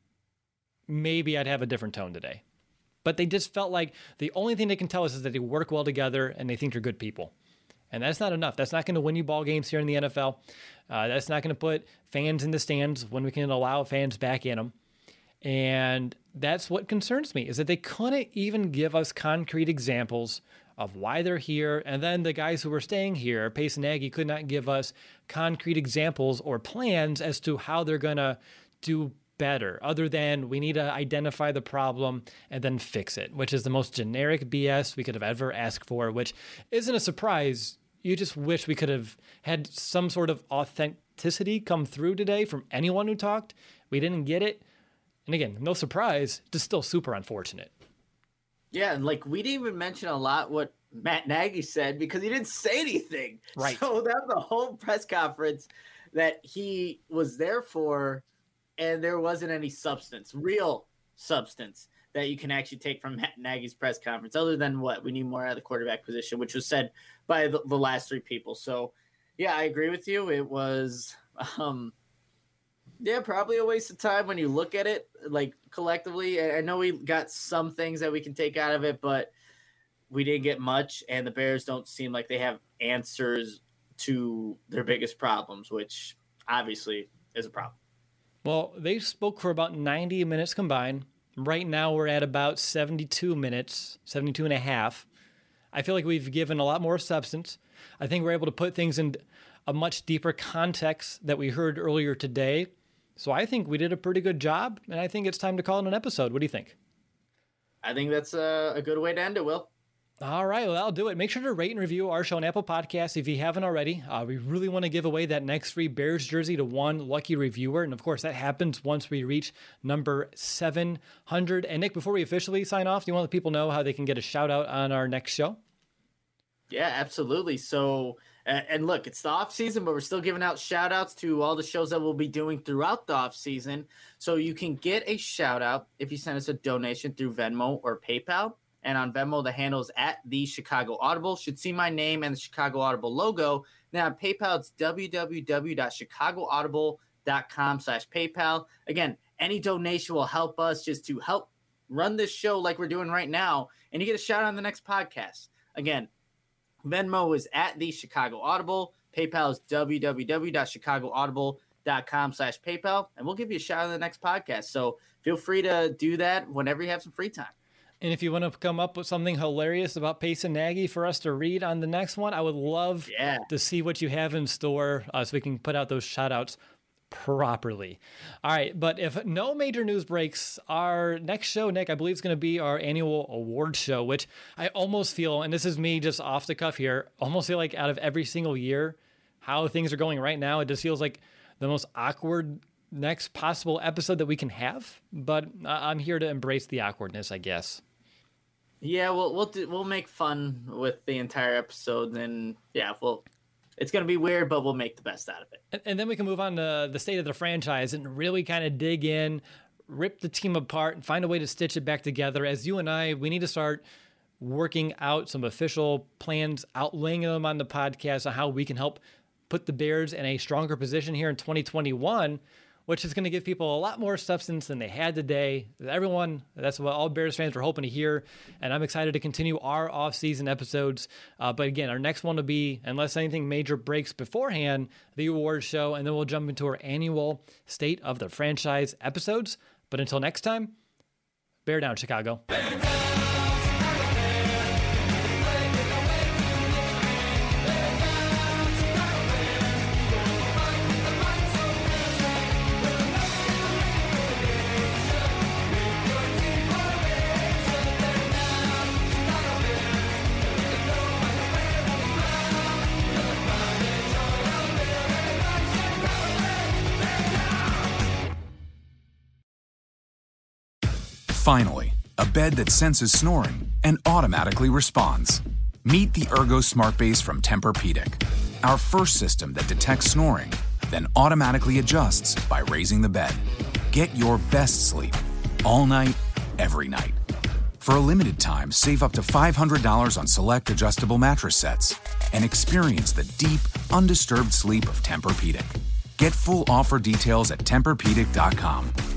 Speaker 3: maybe I'd have a different tone today. But they just felt like the only thing they can tell us is that they work well together and they think they're good people. And that's not enough. That's not going to win you ball games here in the N F L. Uh, that's not going to put fans in the stands when we can allow fans back in them. And that's what concerns me, is that they couldn't even give us concrete examples of why they're here. And then the guys who were staying here, Pace and Nagy, could not give us concrete examples or plans as to how they're going to do better, other than we need to identify the problem and then fix it, which is the most generic B S we could have ever asked for, which isn't a surprise. You just wish we could have had some sort of authenticity come through today from anyone who talked. We didn't get it. And again, no surprise, just still super unfortunate.
Speaker 4: Yeah, and like we didn't even mention a lot what Matt Nagy said because he didn't say anything.
Speaker 3: Right.
Speaker 4: So that was the whole press conference that he was there for, and there wasn't any substance, real substance that you can actually take from Matt Nagy's press conference, other than what we need more out of the quarterback position, which was said by the, the last three people. So, yeah, I agree with you. It was, um, yeah, probably a waste of time when you look at it, like collectively. I know we got some things that we can take out of it, but we didn't get much, and the Bears don't seem like they have answers to their biggest problems, which obviously is a problem.
Speaker 3: Well, they spoke for about ninety minutes combined. Right now we're at about seventy-two minutes, seventy-two and a half. I feel like we've given a lot more substance. I think we're able to put things in a much deeper context that we heard earlier today. So I think we did a pretty good job, and I think it's time to call it an episode. What do you think?
Speaker 4: I think that's a, a good way to end it, Will.
Speaker 3: All right, well, that'll do it. Make sure to rate and review our show on Apple Podcasts if you haven't already. Uh, we really want to give away that next free Bears jersey to one lucky reviewer. And, of course, that happens once we reach number seven hundred. And, Nick, before we officially sign off, do you want to let people know how they can get a shout-out on our next show?
Speaker 4: Yeah, absolutely. So, uh, and look, it's the off season, but we're still giving out shout outs to all the shows that we'll be doing throughout the off season. So you can get a shout out if you send us a donation through Venmo or PayPal. And on Venmo, the handle is at the Chicago Audible. Should see my name and the Chicago Audible logo. Now on PayPal, it's www.chicagoaudible.com slash PayPal. Again, any donation will help us just to help run this show like we're doing right now. And you get a shout out on the next podcast. Again, Venmo is at the Chicago Audible. PayPal is www.chicagoaudible.com slash PayPal. And we'll give you a shout out in the next podcast. So feel free to do that whenever you have some free time.
Speaker 3: And if you want to come up with something hilarious about Pace and Nagy for us to read on the next one, I would love
Speaker 4: yeah.
Speaker 3: to see what you have in store uh, so we can put out those shout outs properly. All right, but if no major news breaks, our next show, Nick, I believe is going to be our annual award show, which I almost feel, and this is me just off the cuff here, almost feel like out of every single year, how things are going right now, it just feels like the most awkward next possible episode that we can have. But I'm here to embrace the awkwardness, I guess.
Speaker 4: Yeah, we'll we'll do, we'll make fun with the entire episode, and yeah, we'll. It's going to be weird, but we'll make the best out of it.
Speaker 3: And, and then we can move on to the state of the franchise and really kind of dig in, rip the team apart, and find a way to stitch it back together. As you and I, we need to start working out some official plans, outlaying them on the podcast on how we can help put the Bears in a stronger position here in twenty twenty-one, which is going to give people a lot more substance than they had today. Everyone, that's what all Bears fans were hoping to hear, and I'm excited to continue our off-season episodes. Uh, but again, our next one will be, unless anything major breaks beforehand, the awards show, and then we'll jump into our annual State of the Franchise episodes. But until next time, bear down, Chicago.
Speaker 10: Finally, a bed that senses snoring and automatically responds. Meet the Ergo Smart Base from Tempur-Pedic, our first system that detects snoring, then automatically adjusts by raising the bed. Get your best sleep all night, every night. For a limited time, save up to five hundred dollars on select adjustable mattress sets and experience the deep, undisturbed sleep of Tempur-Pedic. Get full offer details at Tempur Pedic dot com.